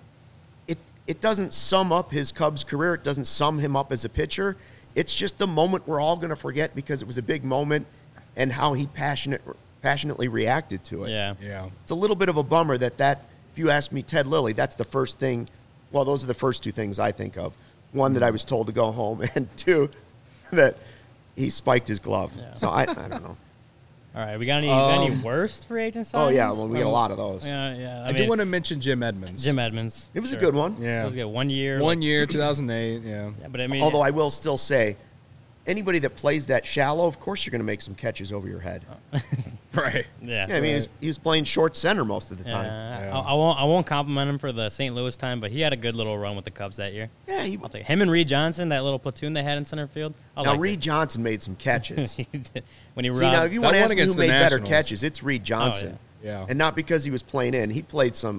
It doesn't sum up his Cubs career. It doesn't sum him up as a pitcher. It's just the moment we're all going to forget because it was a big moment and how he passionately reacted to it. Yeah. Yeah. It's a little bit of a bummer that if you ask me Ted Lilly, that's the first thing. Well, those are the first two things I think of. One, that I was told to go home, and two, that he spiked his glove. Yeah. So I don't know. All right, we got any worst free agent signings? Oh, yeah, well, we got a lot of those. Yeah. I do want to mention Jim Edmonds. Jim Edmonds. It was a good one. Yeah. It was good. 1 year. 1 year, 2008, yeah. Yeah, but I mean, Although I will still say, anybody that plays that shallow, of course you're going to make some catches over your head. Right. yeah. Yeah, I mean, he was playing short center most of the time. Yeah. I won't compliment him for the St. Louis time, but he had a good little run with the Cubs that year. Yeah, I'll take him and Reed Johnson, that little platoon they had in center field. now Reed Johnson made some catches. When he See, now if you That want to one ask me who against the made better Nationals. catches, it's Reed Johnson. Yeah. And not because he was playing in. He played some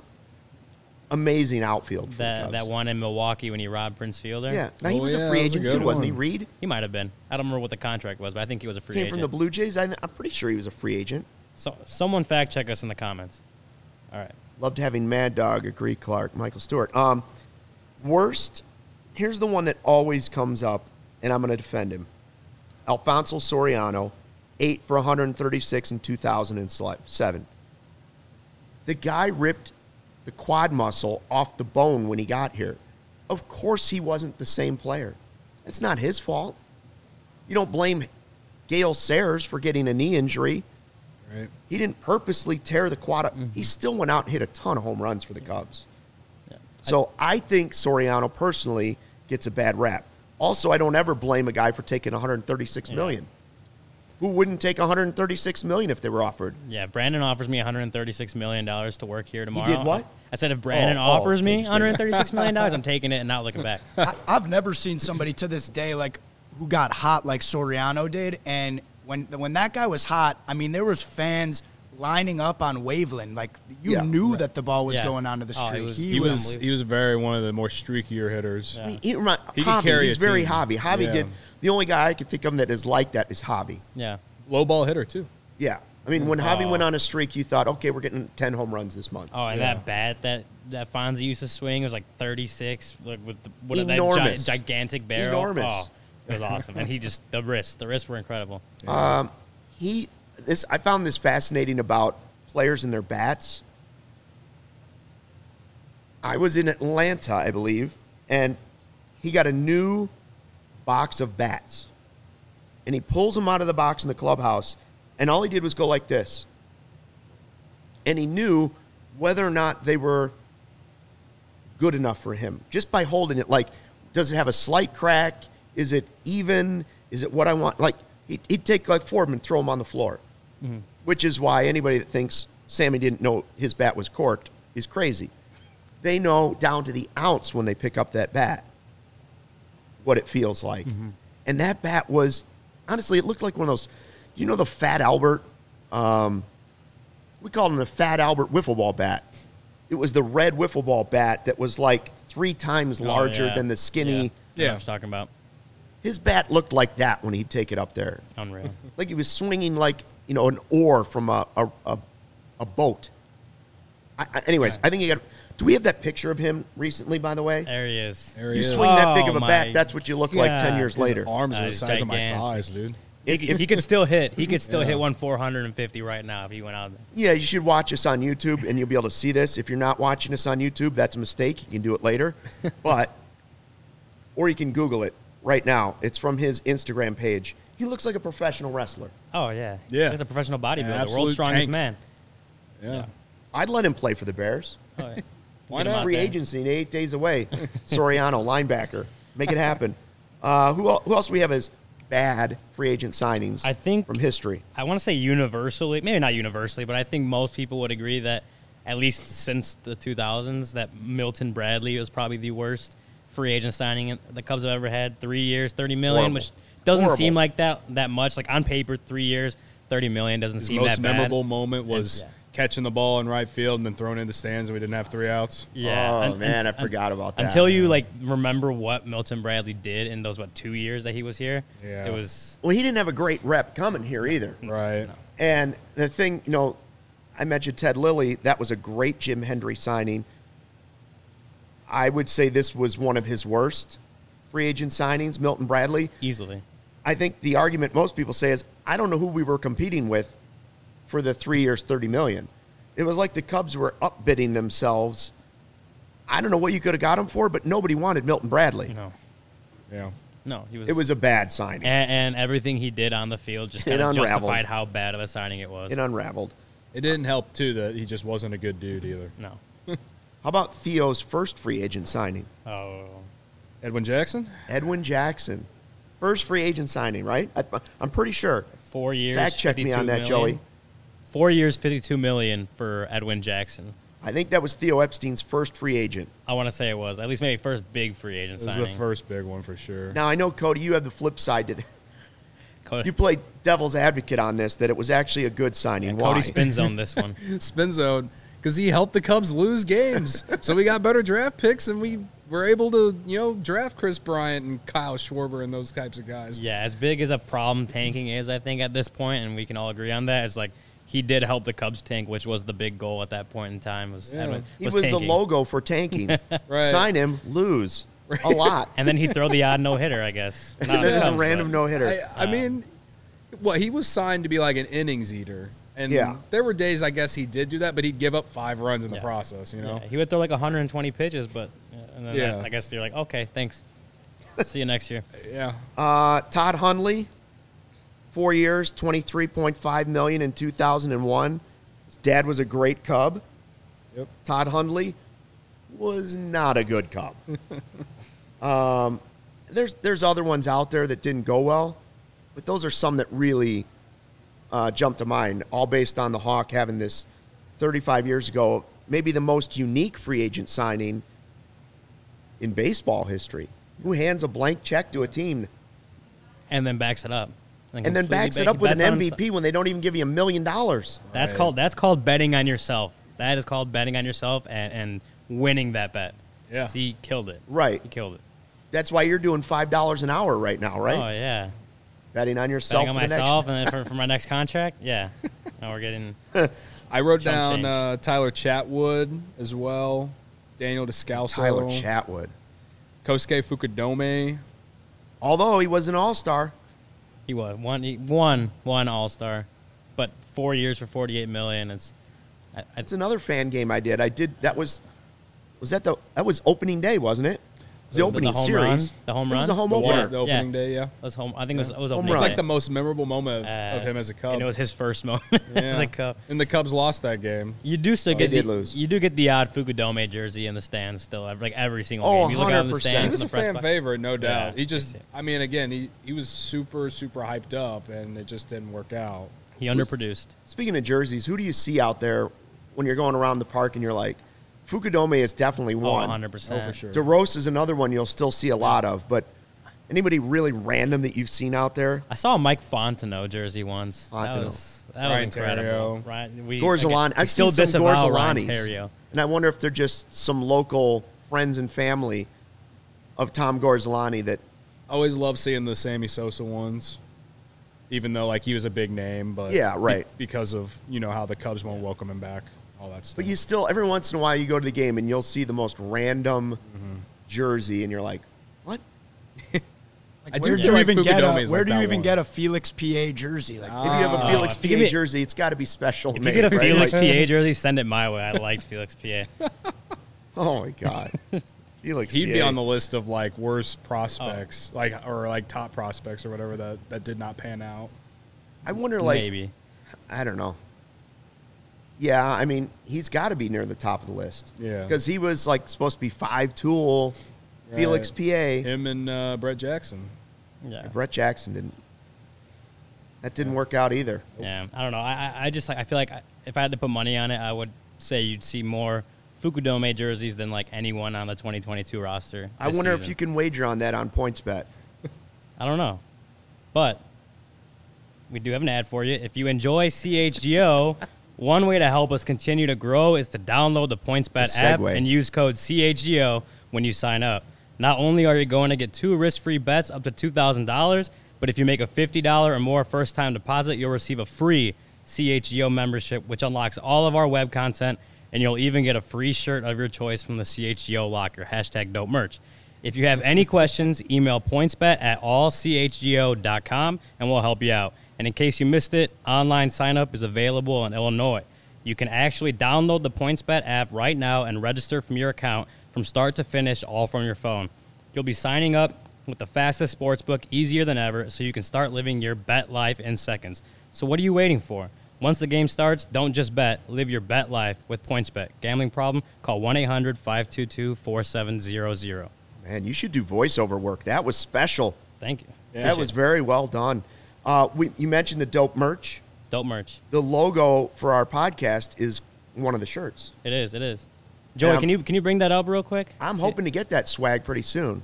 amazing outfield for the Cubs. that one in Milwaukee when he robbed Prince Fielder. Yeah. Now, he Oh, was a yeah, free that was a agent, good too, wasn't he, one. Reed? He might have been. I don't remember what the contract was, but I think he was a free Came agent. from the Blue Jays. I'm pretty sure he was a free agent. So someone fact check us in the comments. All right. Loved having Mad Dog agree, Clark, Michael Stewart. Worst, here's the one that always comes up, and I'm going to defend him. Alfonso Soriano, 8 for 136 in 2007. The guy ripped the quad muscle off the bone when he got here. Of course he wasn't the same player. It's not his fault. You don't blame Gale Sayers for getting a knee injury. Right. He didn't purposely tear the quad up. He still went out and hit a ton of home runs for the Cubs. Yeah. So I think Soriano personally gets a bad rap. Also, I don't ever blame a guy for taking $136 million. Who wouldn't take $136 million if they were offered? Yeah, Brandon offers me $136 million to work here tomorrow. did what? I said if Brandon offers me $136 million, I'm taking it and not looking back. I've never seen somebody to this day like who got hot like Soriano did. And when that guy was hot, I mean, there was fans lining up on Waveland. Like, you knew that the ball was Yeah. going onto the Oh, street. he was He was very one of the more streakier hitters. Yeah. He He can carry he's a very team. Javi. Javi Yeah. did. The only guy I could think of that is like that is Javi. Yeah. Low ball hitter, too. Yeah. I mean, when Javi went on a streak, you thought, okay, we're getting 10 home runs this month. Oh, and Yeah. that bat that Fonzie used to swing was like 36, like with Enormous. that gigantic barrel. Enormous. Oh, it was awesome. And he just the wrists were incredible. I found this fascinating about players and their bats. I was in Atlanta, I believe, and he got a new box of bats. And he pulls them out of the box in the clubhouse, and all he did was go like this. And he knew whether or not they were good enough for him just by holding it. Like, does it have a slight crack? Is it even? Is it what I want? Like, he'd take like 4 of them and throw them on the floor, which is why anybody that thinks Sammy didn't know his bat was corked is crazy. They know down to the ounce when they pick up that bat what it feels like. And that bat was, honestly, it looked like one of those, you know, the Fat Albert, we called him the Fat Albert wiffle ball bat. It was the red wiffle ball bat that was like 3 times larger than the skinny. Yeah. I know Yeah. what I'm talking about. His bat looked like that when he'd take it up there. Unreal. Like he was swinging like, you know, an oar from a boat. Anyways, I think he got. Do we have that picture of him recently? By the way, There he is. There he you is. swing that big of a Oh, bat, my that's what you look like 10 God. years His later. arms are the He's size of my gigantic. thighs, dude. He could still hit. He could still hit 450 right now if he went out there. Yeah, you should watch us on YouTube, and you'll be able to see this. If you're not watching us on YouTube, that's a mistake. You can do it later, or you can Google it right now. It's from his Instagram page. He looks like a professional wrestler. Oh yeah. Yeah. He's a professional bodybuilder, absolute world's strongest tank. man. Yeah. I'd let him play for the Bears. Oh, yeah. Why Get him not? out Free there. agency in 8 days away. Soriano, linebacker. Make it happen. Who else do we have as bad free agent signings I think from history? I want to say universally, maybe not universally, but I think most people would agree that at least since the 2000s, that Milton Bradley was probably the worst free agent signing the Cubs have ever had. 3 years, $30 million, Horrible. which doesn't Horrible. seem like that much. Like on paper, 3 years, $30 million doesn't His seem most that bad. memorable moment was Yeah. catching the ball in right field and then throwing it in the stands, and we didn't have 3 outs. Yeah. Oh, un- man, I un- forgot about that. Until you like remember what Milton Bradley did in those 2 years that he was here. Yeah. It was Well, he didn't have a great rep coming here either. Right. And the thing, I mentioned Ted Lilly. That was a great Jim Hendry signing. I would say this was one of his worst free agent signings, Milton Bradley. easily. I think the argument most people say is, I don't know who we were competing with for the 3 years, $30 million. It was like the Cubs were upbidding themselves. I don't know what you could have got him for, but nobody wanted Milton Bradley. Yeah. No, he was. It was a bad signing. and everything he did on the field just It kind of unraveled. justified how bad of a signing it was. It unraveled. It didn't help, too, that he just wasn't a good dude either. No. How about Theo's first free agent signing? Oh. Edwin Jackson? Edwin Jackson. First free agent signing, right? I'm pretty sure. 4 years. Fact check me 52 on that, million. Joey. 4 years, $52 million for Edwin Jackson. I think that was Theo Epstein's first free agent. I want to say it was at least maybe first big free agent This is signing. the first big one for sure. Now, I know, Cody, you have the flip side to that. Cody, You played devil's advocate on this, that it was actually a good signing. Why? Cody spin zone this one. Spin zone, because he helped the Cubs lose games. So we got better draft picks, and we were able to, draft Chris Bryant and Kyle Schwarber and those types of guys. Yeah, as big as a problem tanking is, I think at this point, and we can all agree on that. It's like he did help the Cubs tank, which was the big goal at that point in time. Yeah. He was the tanking. logo for tanking. Right. Sign him, lose a lot. And then he'd throw the odd no hitter, I guess. Not And on the then a Cubs, random but- no hitter. I mean, he was signed to be like an innings eater. And Yeah. there were days, I guess, he did do that, but he'd give up 5 runs in the Yeah. process, Yeah, he would throw like 120 pitches, but and then Yeah. that's, I guess you're like, okay, thanks. See you next year. Yeah. Todd Hundley, 4 years, $23.5 million in 2001. His dad was a great Cub. Yep. Todd Hundley was not a good Cub. There's other ones out there that didn't go well, but those are some that really jumped to mind, all based on the Hawk having this 35 years ago, maybe the most unique free agent signing in baseball history. Who hands a blank check to a team And then backs it up. and then completely backs it up with an bets on MVP when they don't even give you $1 million? That's Right. called betting on yourself. That is called betting on yourself and winning that bet. Yeah. So he killed it. Right. He killed it. That's why you're doing $5 an hour right now, right? Oh yeah. Betting on yourself. Betting on for the next- myself and then for my next contract. Yeah. Now we're getting. I wrote Chump down change. Tyler Chatwood as well, Daniel Descalso, Tyler Chatwood. Kosuke Fukudome. Although he was an all-star. He was one All-Star, but 4 years for $48 million. It's It's another fan game I did. That was opening day, wasn't it? It was the opening home series. run? The home It was run? a home The opener. The opening day, yeah. was home. I think it was Home opening. run. It's day. like the most memorable moment of him as a Cub. And it was his first moment Yeah. as a Cub. And the Cubs lost that game. You do still They get did lose. You do get the odd Fukudome jersey in the stands still, like every single Oh, game. You look out in the 100%. stands. He was in a the press fan box. favorite, no doubt. Yeah. He just, I mean, again, he was super, super hyped up, and it just didn't work out. He underproduced. Speaking of jerseys, who do you see out there when you're going around the park and you're like, Fukudome is definitely Oh, one. 100%. Oh, for sure. DeRose is another one you'll still see a lot of, but anybody really random that you've seen out there? I saw a Mike Fontenot jersey once. Fontenot. That was Ryan incredible. Terrio. Ryan, Gorzolani. I've still seen some disavow Ryan Gorzolanis. Terrio. And I wonder if they're just some local friends and family of Tom Gorzolani that I always love seeing the Sammy Sosa ones, even though like he was a big name, but Yeah, right. because of how the Cubs won't welcome him back. all that stuff. But you still, every once in a while, you go to the game and you'll see the most random jersey, and you're like, what? I Where do do you feel even like get Fukudome a is where like do you that even one. get a Felix PA jersey? Like If you have a Felix if you give PA me- jersey, it's got to be special If made. you get a right? Felix Like, PA jersey, send it my way. I liked Felix PA. oh my God. Felix He'd PA. be on the list of like worst prospects, or like top prospects or whatever that did not pan out. I wonder, like, Maybe. I don't know. Yeah, I mean, he's got to be near the top of the list. Yeah. Because he was, like, supposed to be 5-tool Felix PA. Him and Brett Jackson. Yeah. Brett Jackson didn't. That didn't work out either. Yeah. I don't know. I just like I feel like if I had to put money on it, I would say you'd see more Fukudome jerseys than like anyone on the 2022 roster. I wonder if you can wager on that on PointsBet. I don't know. But we do have an ad for you. If you enjoy CHGO, one way to help us continue to grow is to download the PointsBet Good app segue. and use code CHGO when you sign up. Not only are you going to get 2 risk-free bets up to $2,000, but if you make a $50 or more first-time deposit, you'll receive a free CHGO membership, which unlocks all of our web content, and you'll even get a free shirt of your choice from the CHGO locker, #DopeMerch. If you have any questions, email pointsbet@allchgo.com, and we'll help you out. And in case you missed it, online sign-up is available in Illinois. You can actually download the PointsBet app right now and register from your account from start to finish, all from your phone. You'll be signing up with the fastest sportsbook, easier than ever, so you can start living your bet life in seconds. So what are you waiting for? Once the game starts, don't just bet. Live your bet life with PointsBet. Gambling problem? Call 1-800-522-4700. Man, you should do voiceover work. That was special. Thank you. That was very well done. You mentioned the Dope merch. Dope merch. The logo for our podcast is one of the shirts. It is. It is. Joey, can you bring that up real quick? I'm hoping to get that swag pretty soon.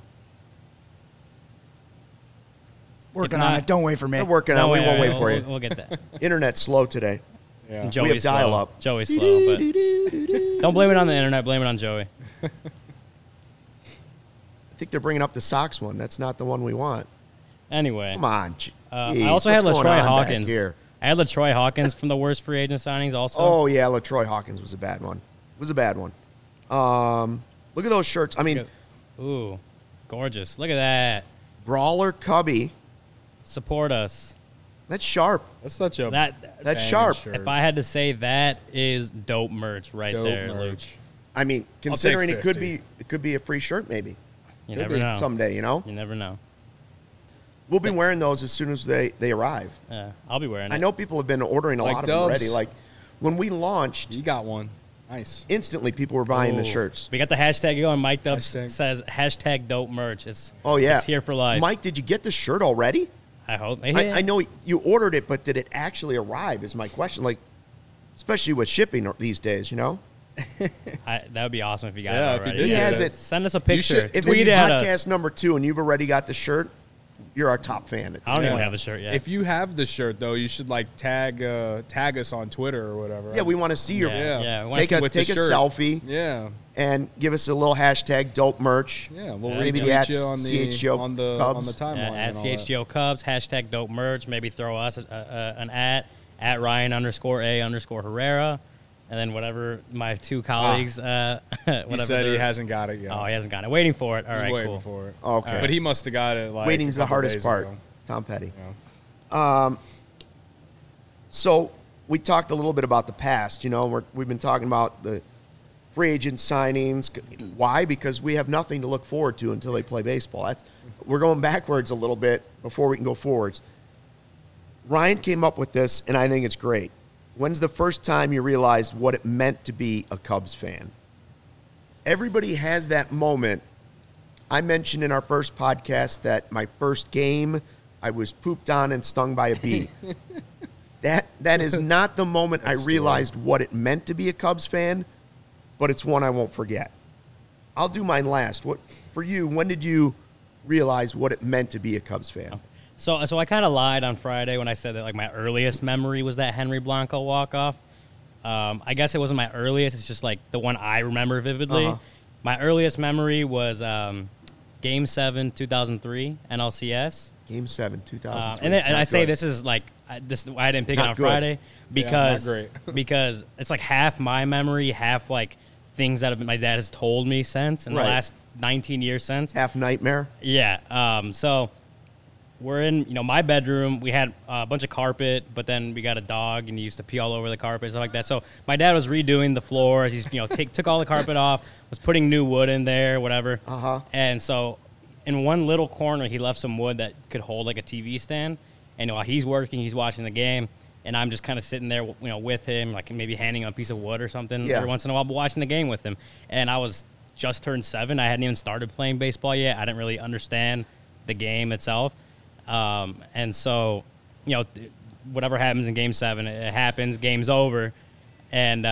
working If on not- it. Don't wait for me. We're working on it. We won't wait for you. We'll get that. Internet's slow today. Yeah. Joey's dial slow. up. Joey's slow, but don't blame it on the internet. Blame it on Joey. I think they're bringing up the Sox one. That's not the one we want. Anyway, Come on. I also had What's going LaTroy on back Hawkins. here? I had LaTroy Hawkins from the worst free agent signings also. Oh, yeah, LaTroy Hawkins was a bad one. Was a bad one. Look at those shirts. I mean, Ooh, gorgeous. Look at that. Brawler Cubby. Support us. That's sharp. That's such a That's banging sharp. shirt. If I had to say, that is dope merch right Dope there, Luke. merch. I mean, considering it could 50. be a free shirt maybe You Could never be. know. someday, you know? You never know. We'll be wearing those as soon as they arrive. Yeah, I'll be wearing it. I know people have been ordering a Like lot of them Dubs. already. Like when we launched, You got one. Nice. instantly people were buying the Ooh. shirts. We got the hashtag going. Mike Dubs Hashtag. says hashtag dope merch. It's It's here for life. Mike, did you get the shirt already? I hope. I know you ordered it, but did it actually arrive? Is my question. Like, especially with shipping these days, you know. That would be awesome if you got Yeah, it if you already. did He has it. Send us a picture. should- If Tweet it's at podcast us. number 2 and you've already got the shirt, you're our top fan. At this I don't even point. have the shirt yet. If you have the shirt though, you should like tag us on Twitter or whatever. Yeah, we want to see your Yeah, we wanna take see a with the take a shirt. selfie Yeah. and give us a little hashtag dope merch. Yeah, we'll Maybe retweet at you on the CHGO on the Cubs. timeline. at and all that. CHGO Cubs, hashtag dope merch. Maybe throw us an at Ryan_A_Herrera. And then whatever my two colleagues, He whatever said he they're- hasn't got it yet. Oh, he hasn't got it. Waiting for it. All He's right, waiting cool. for it. Okay. But he must have got it like Waiting's a the couple hardest days part. ago. Tom Petty. Yeah. So we talked a little bit about the past. You know, we've been talking about the free agent signings. Why? Because we have nothing to look forward to until they play baseball. We're going backwards a little bit before we can go forwards. Ryan came up with this, and I think it's great. When's the first time you realized what it meant to be a Cubs fan? Everybody has that moment. I mentioned in our first podcast that my first game, I was pooped on and stung by a bee. That is not the moment I realized what it meant to be a Cubs fan, but it's one I won't forget. I'll do mine last. What for you? When did you realize what it meant to be a Cubs fan? So I kind of lied on Friday when I said that like my earliest memory was that Henry Blanco walk-off. I guess it wasn't my earliest. It's just like the one I remember vividly. Uh-huh. My earliest memory was Game 7, 2003, NLCS. Game 7, 2003. And I Not say good. this is like I didn't pick it Not on good. Friday because not great. because it's like half my memory, half like things that my dad has told me since in Right. the last 19 years since. Half nightmare. Yeah. So we're in, my bedroom. We had a bunch of carpet, but then we got a dog, and he used to pee all over the carpet and stuff like that. So my dad was redoing the floor. He's, took all the carpet off, was putting new wood in there, whatever. Uh-huh. And so in one little corner, he left some wood that could hold like a TV stand. And while he's working, he's watching the game, and I'm just kind of sitting there, with him, like maybe handing him a piece of wood or something Yeah. every once in a while, but watching the game with him. And I was just turned 7. I hadn't even started playing baseball yet. I didn't really understand the game itself. And so, whatever happens in Game 7, it happens. Game's over, and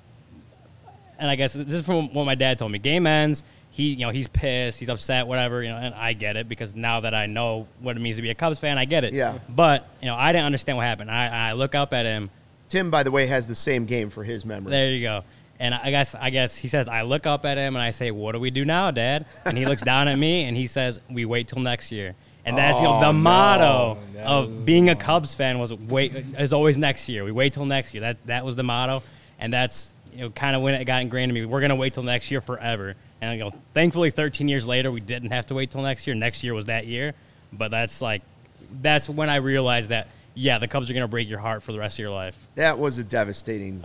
I guess this is from what my dad told me. Game ends. He's pissed. He's upset. Whatever. And I get it because now that I know what it means to be a Cubs fan, I get it. Yeah. But I didn't understand what happened. I look up at him. Tim, by the way, has the same game for his memory. There you go. And I guess he says, I look up at him and I say, "What do we do now, Dad?" And he looks down at me and he says, "We wait till next year." And that's the motto of being a Cubs fan is always next year. We wait till next year. That was the motto, and that's kind of when it got ingrained in me. We're gonna wait till next year forever. And thankfully, 13 years later, we didn't have to wait till next year. Next year was that year, but that's when I realized that the Cubs are gonna break your heart for the rest of your life. That was a devastating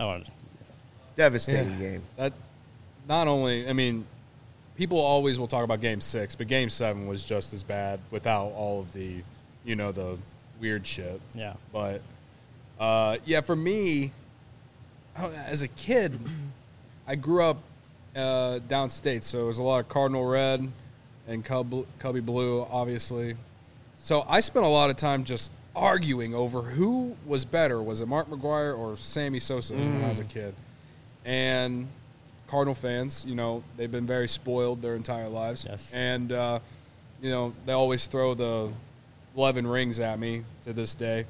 game. That not only, I mean, people always will talk about Game 6, but Game 7 was just as bad without all of the, the weird shit. Yeah. But, for me, as a kid, I grew up downstate, so it was a lot of Cardinal Red and Cubby Blue, obviously. So I spent a lot of time just arguing over who was better. Was it Mark McGwire or Sammy Sosa when I was a kid? And Cardinal fans, they've been very spoiled their entire lives. Yes. And, they always throw the 11 rings at me to this day.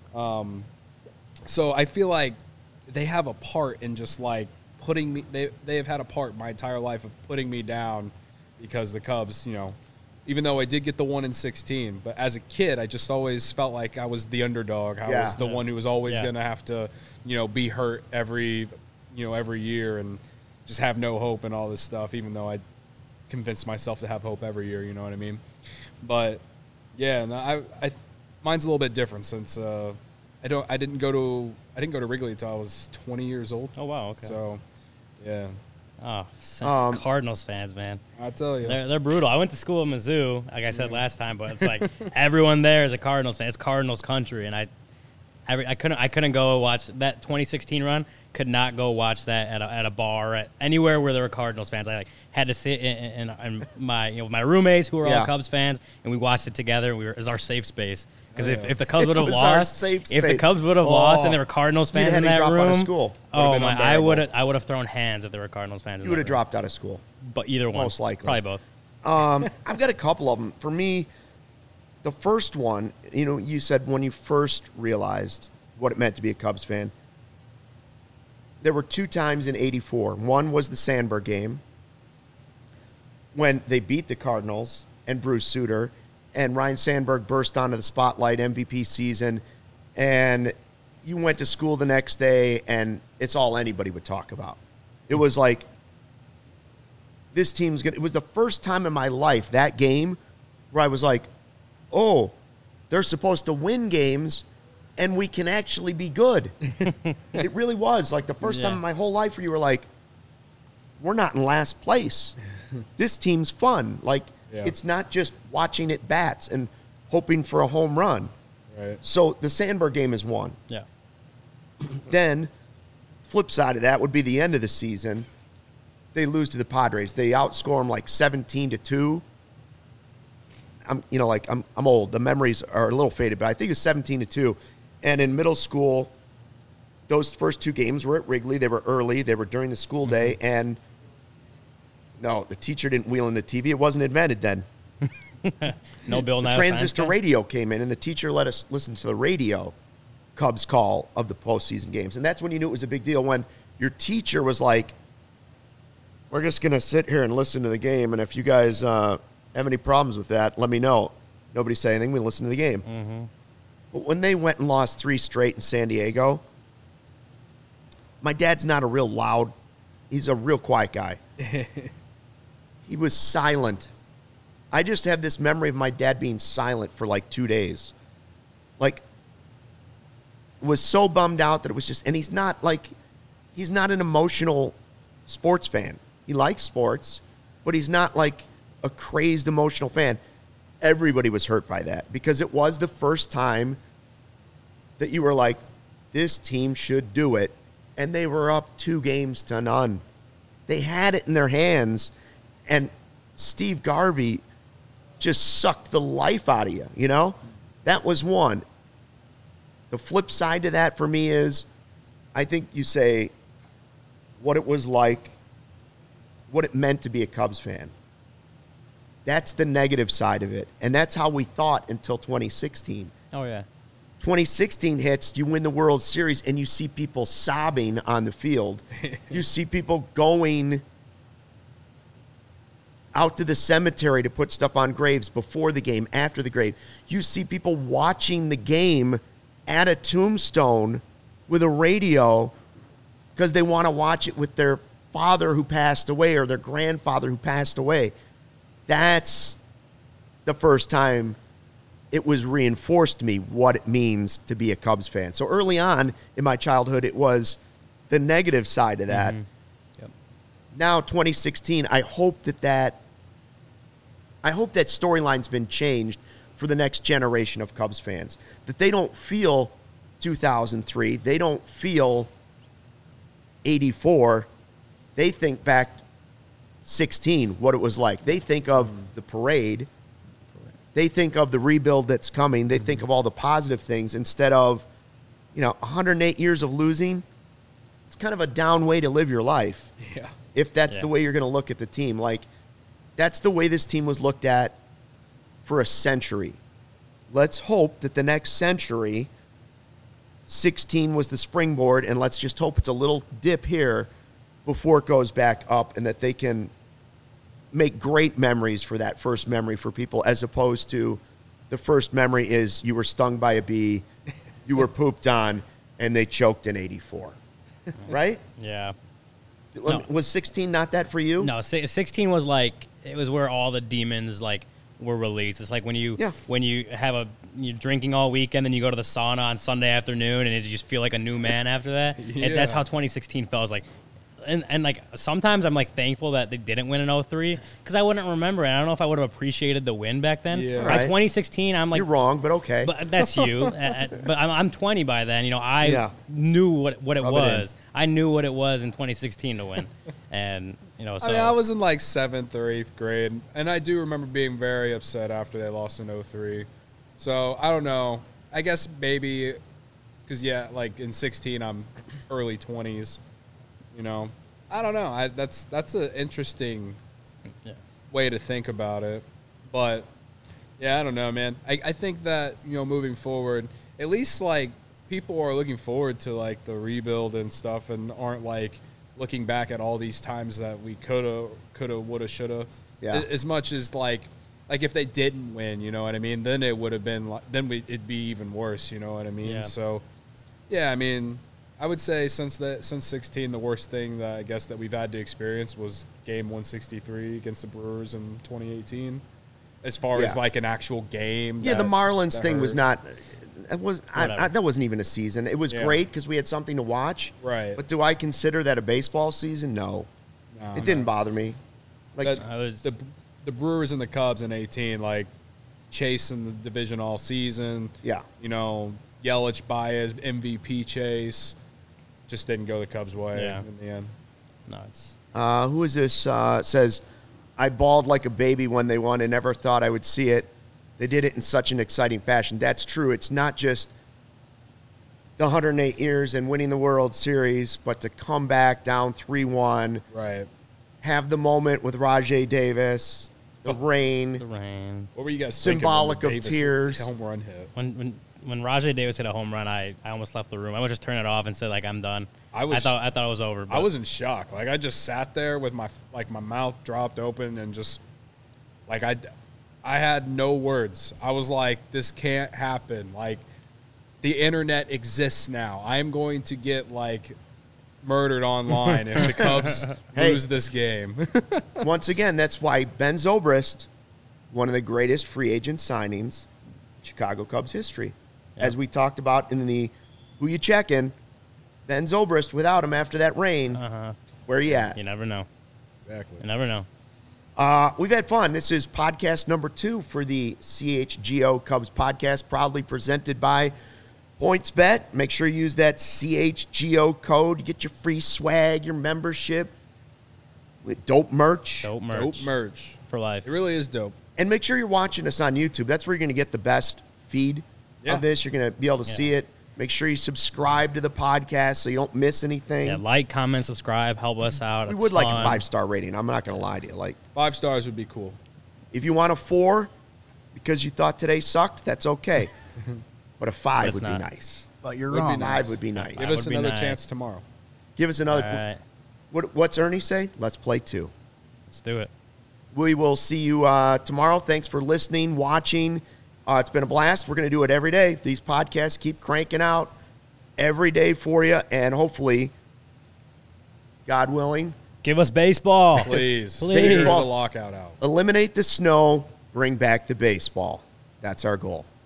So I feel like they have a part in just putting me, they have had a part my entire life of putting me down because the Cubs, even though I did get the 1 in 16, but as a kid, I just always felt like I was the underdog. I was the one who was always going to have to, be hurt every year and just have no hope and all this stuff, even though I convinced myself to have hope every year, you know what I mean? But yeah, no, mine's a little bit different since I didn't go to Wrigley until I was 20 years old. Oh wow, okay. So yeah. Oh, Cardinals fans, man. I tell you. They're brutal. I went to school in Mizzou, like I said last time, but it's like everyone there is a Cardinals fan. It's Cardinals country, and I couldn't go watch that 2016 run. Could not go watch that at a bar at anywhere where there were Cardinals fans. I had to sit in my my roommates who were all Cubs fans, and we watched it together. It was our safe space because if the Cubs would have lost, and there were Cardinals fans in that room, oh my, I would have thrown hands if there were Cardinals fans. You would have dropped out of school. But either one, most likely, probably both. I've got a couple of them. For me, the first one, you said when you first realized what it meant to be a Cubs fan. There were 2 times in '84. One was the Sandberg game when they beat the Cardinals and Bruce Sutter, and Ryan Sandberg burst onto the spotlight, MVP season, and you went to school the next day, and it's all anybody would talk about. It was like, this team's going to... It was the first time in my life, that game, where I was like, oh, they're supposed to win games, and we can actually be good. It really was. Like the first time in my whole life where you were like, we're not in last place. This team's fun. Like, it's not just watching it bats and hoping for a home run. Right. So the Sandberg game is one. Yeah. Then, flip side of that would be the end of the season. They lose to the Padres. They outscore them 17-2. I'm old. The memories are a little faded, but I think it's 17-2. And in middle school, those first 2 games were at Wrigley. They were early. They were during the school day. And no, the teacher didn't wheel in the TV. It wasn't invented then. No Bill Nye. The transistor radio came in, and the teacher let us listen to the radio Cubs call of the postseason games. And that's when you knew it was a big deal, when your teacher was like, we're just going to sit here and listen to the game, and if you guys have any problems with that, let me know. Nobody say anything. We listen to the game. Mm-hmm. But when they went and lost 3 straight in San Diego, my dad's not a real loud, he's a real quiet guy. He was silent. I just have this memory of my dad being silent for like 2 days. Like, was so bummed out that it was just, and he's not an emotional sports fan. He likes sports, but he's not like a crazed emotional fan. Everybody was hurt by that because it was the first time that you were like, this team should do it. And they were up 2-0. They had it in their hands, and Steve Garvey just sucked the life out of you, you know? That was one. The flip side to that for me is, I think you say what it was like, what it meant to be a Cubs fan. That's the negative side of it. And that's how we thought until 2016. Oh, yeah. 2016 hits, you win the World Series, and you see people sobbing on the field. You see people going out to the cemetery to put stuff on graves before the game, after the grave. You see people watching the game at a tombstone with a radio because they want to watch it with their father who passed away or their grandfather who passed away. That's the first time it was reinforced to me what it means to be a Cubs fan. So early on in my childhood, it was the negative side of that. Mm-hmm. Yep. Now, 2016, I hope that storyline's been changed for the next generation of Cubs fans. That they don't feel 2003. They don't feel 84. They think back 16, what it was like. They think of the parade. They think of the rebuild that's coming. They think of all the positive things instead of, 108 years of losing. It's kind of a down way to live your life. Yeah. If that's the way you're going to look at the team. Like, that's the way this team was looked at for a century. Let's hope that the next century, 16 was the springboard, and let's just hope it's a little dip here before it goes back up, and that they can make great memories for that first memory for people, as opposed to the first memory is you were stung by a bee, you were pooped on, and they choked in 84. Right? Yeah. No. Was 16 not that for you? No, 16 was like, it was where all the demons were released. It's like when you you're drinking all weekend, then you go to the sauna on Sunday afternoon, and you just feel like a new man after that. Yeah. And that's how 2016 felt. It was like, and like sometimes I'm like thankful that they didn't win in 03 because I wouldn't remember it. I don't know if I would have appreciated the win back then. Yeah. By 2016, I'm like, You're wrong, but okay. But that's you. But I'm 20 by then. I knew what it was. I knew what it was in 2016 to win, and so I was in like 7th or 8th grade, and I do remember being very upset after they lost in 03. So I don't know. I guess maybe because like in 16 I'm early 20s. I don't know. That's an interesting way to think about it. But, I don't know, man. I think that, moving forward, at least, like, people are looking forward to, like, the rebuild and stuff and aren't, like, looking back at all these times that we coulda, woulda, shoulda. Yeah. As much as, like if they didn't win, you know what I mean, then it would have been, it'd be even worse, you know what I mean? Yeah. So, I mean, I would say since 16, the worst thing that I guess that we've had to experience was Game 163 against the Brewers in 2018. As far as like an actual game. Yeah, the Marlins thing was not. That wasn't even a season. It was great because we had something to watch. Right. But do I consider that a baseball season? No. It didn't bother me. Like the Brewers and the Cubs in 18, like chasing the division all season. Yeah. Yelich, Baez, MVP chase. Just didn't go the Cubs' way in the end. No, it's who is this? Says, I bawled like a baby when they won and never thought I would see it. They did it in such an exciting fashion. That's true. It's not just the 108 years and winning the World Series, but to come back down 3-1. Right. Have the moment with Rajai Davis, the rain. What were you guys symbolic thinking? Symbolic of tears. Home run hit. When Rajai Davis hit a home run, I almost left the room. I would just turn it off and say, like, I'm done. I thought it was over. But I was in shock. Like, I just sat there with my mouth dropped open and just like I had no words. I was like, this can't happen. Like, the internet exists now. I am going to get murdered online if the Cubs lose this game. Once again, that's why Ben Zobrist, one of the greatest free agent signings in Chicago Cubs history. Yeah. As we talked about in the Who You Checkin', Ben Zobrist, without him after that rain, where you at? You never know. Exactly. You never know. We've had fun. This is podcast number 2 for the CHGO Cubs podcast, proudly presented by PointsBet. Make sure you use that CHGO code. You get your free swag, your membership, with dope merch. Dope merch. Dope merch. For life. It really is dope. And make sure you're watching us on YouTube. That's where you're going to get the best feed of this. You're going to be able to see it. Make sure you subscribe to the podcast so you don't miss anything. Yeah, like, comment, subscribe, help us out. We would like a 5-star rating. I'm not going to lie to you. 5 stars would be cool. If you want a 4 because you thought today sucked, that's okay. But a 5 would be nice. But you're Would be wrong. nice. 5 would be nice. Give us would be another nice. chance tomorrow. Give us another. All right. What's Ernie say? Let's play 2. Let's do it. We will see you tomorrow. Thanks for listening, watching. It's been a blast. We're going to do it every day. These podcasts keep cranking out every day for you, and hopefully, God willing, Give us baseball. Please. Please. Figure the Baseball. lockout out. eliminate the snow, bring back the baseball. That's our goal.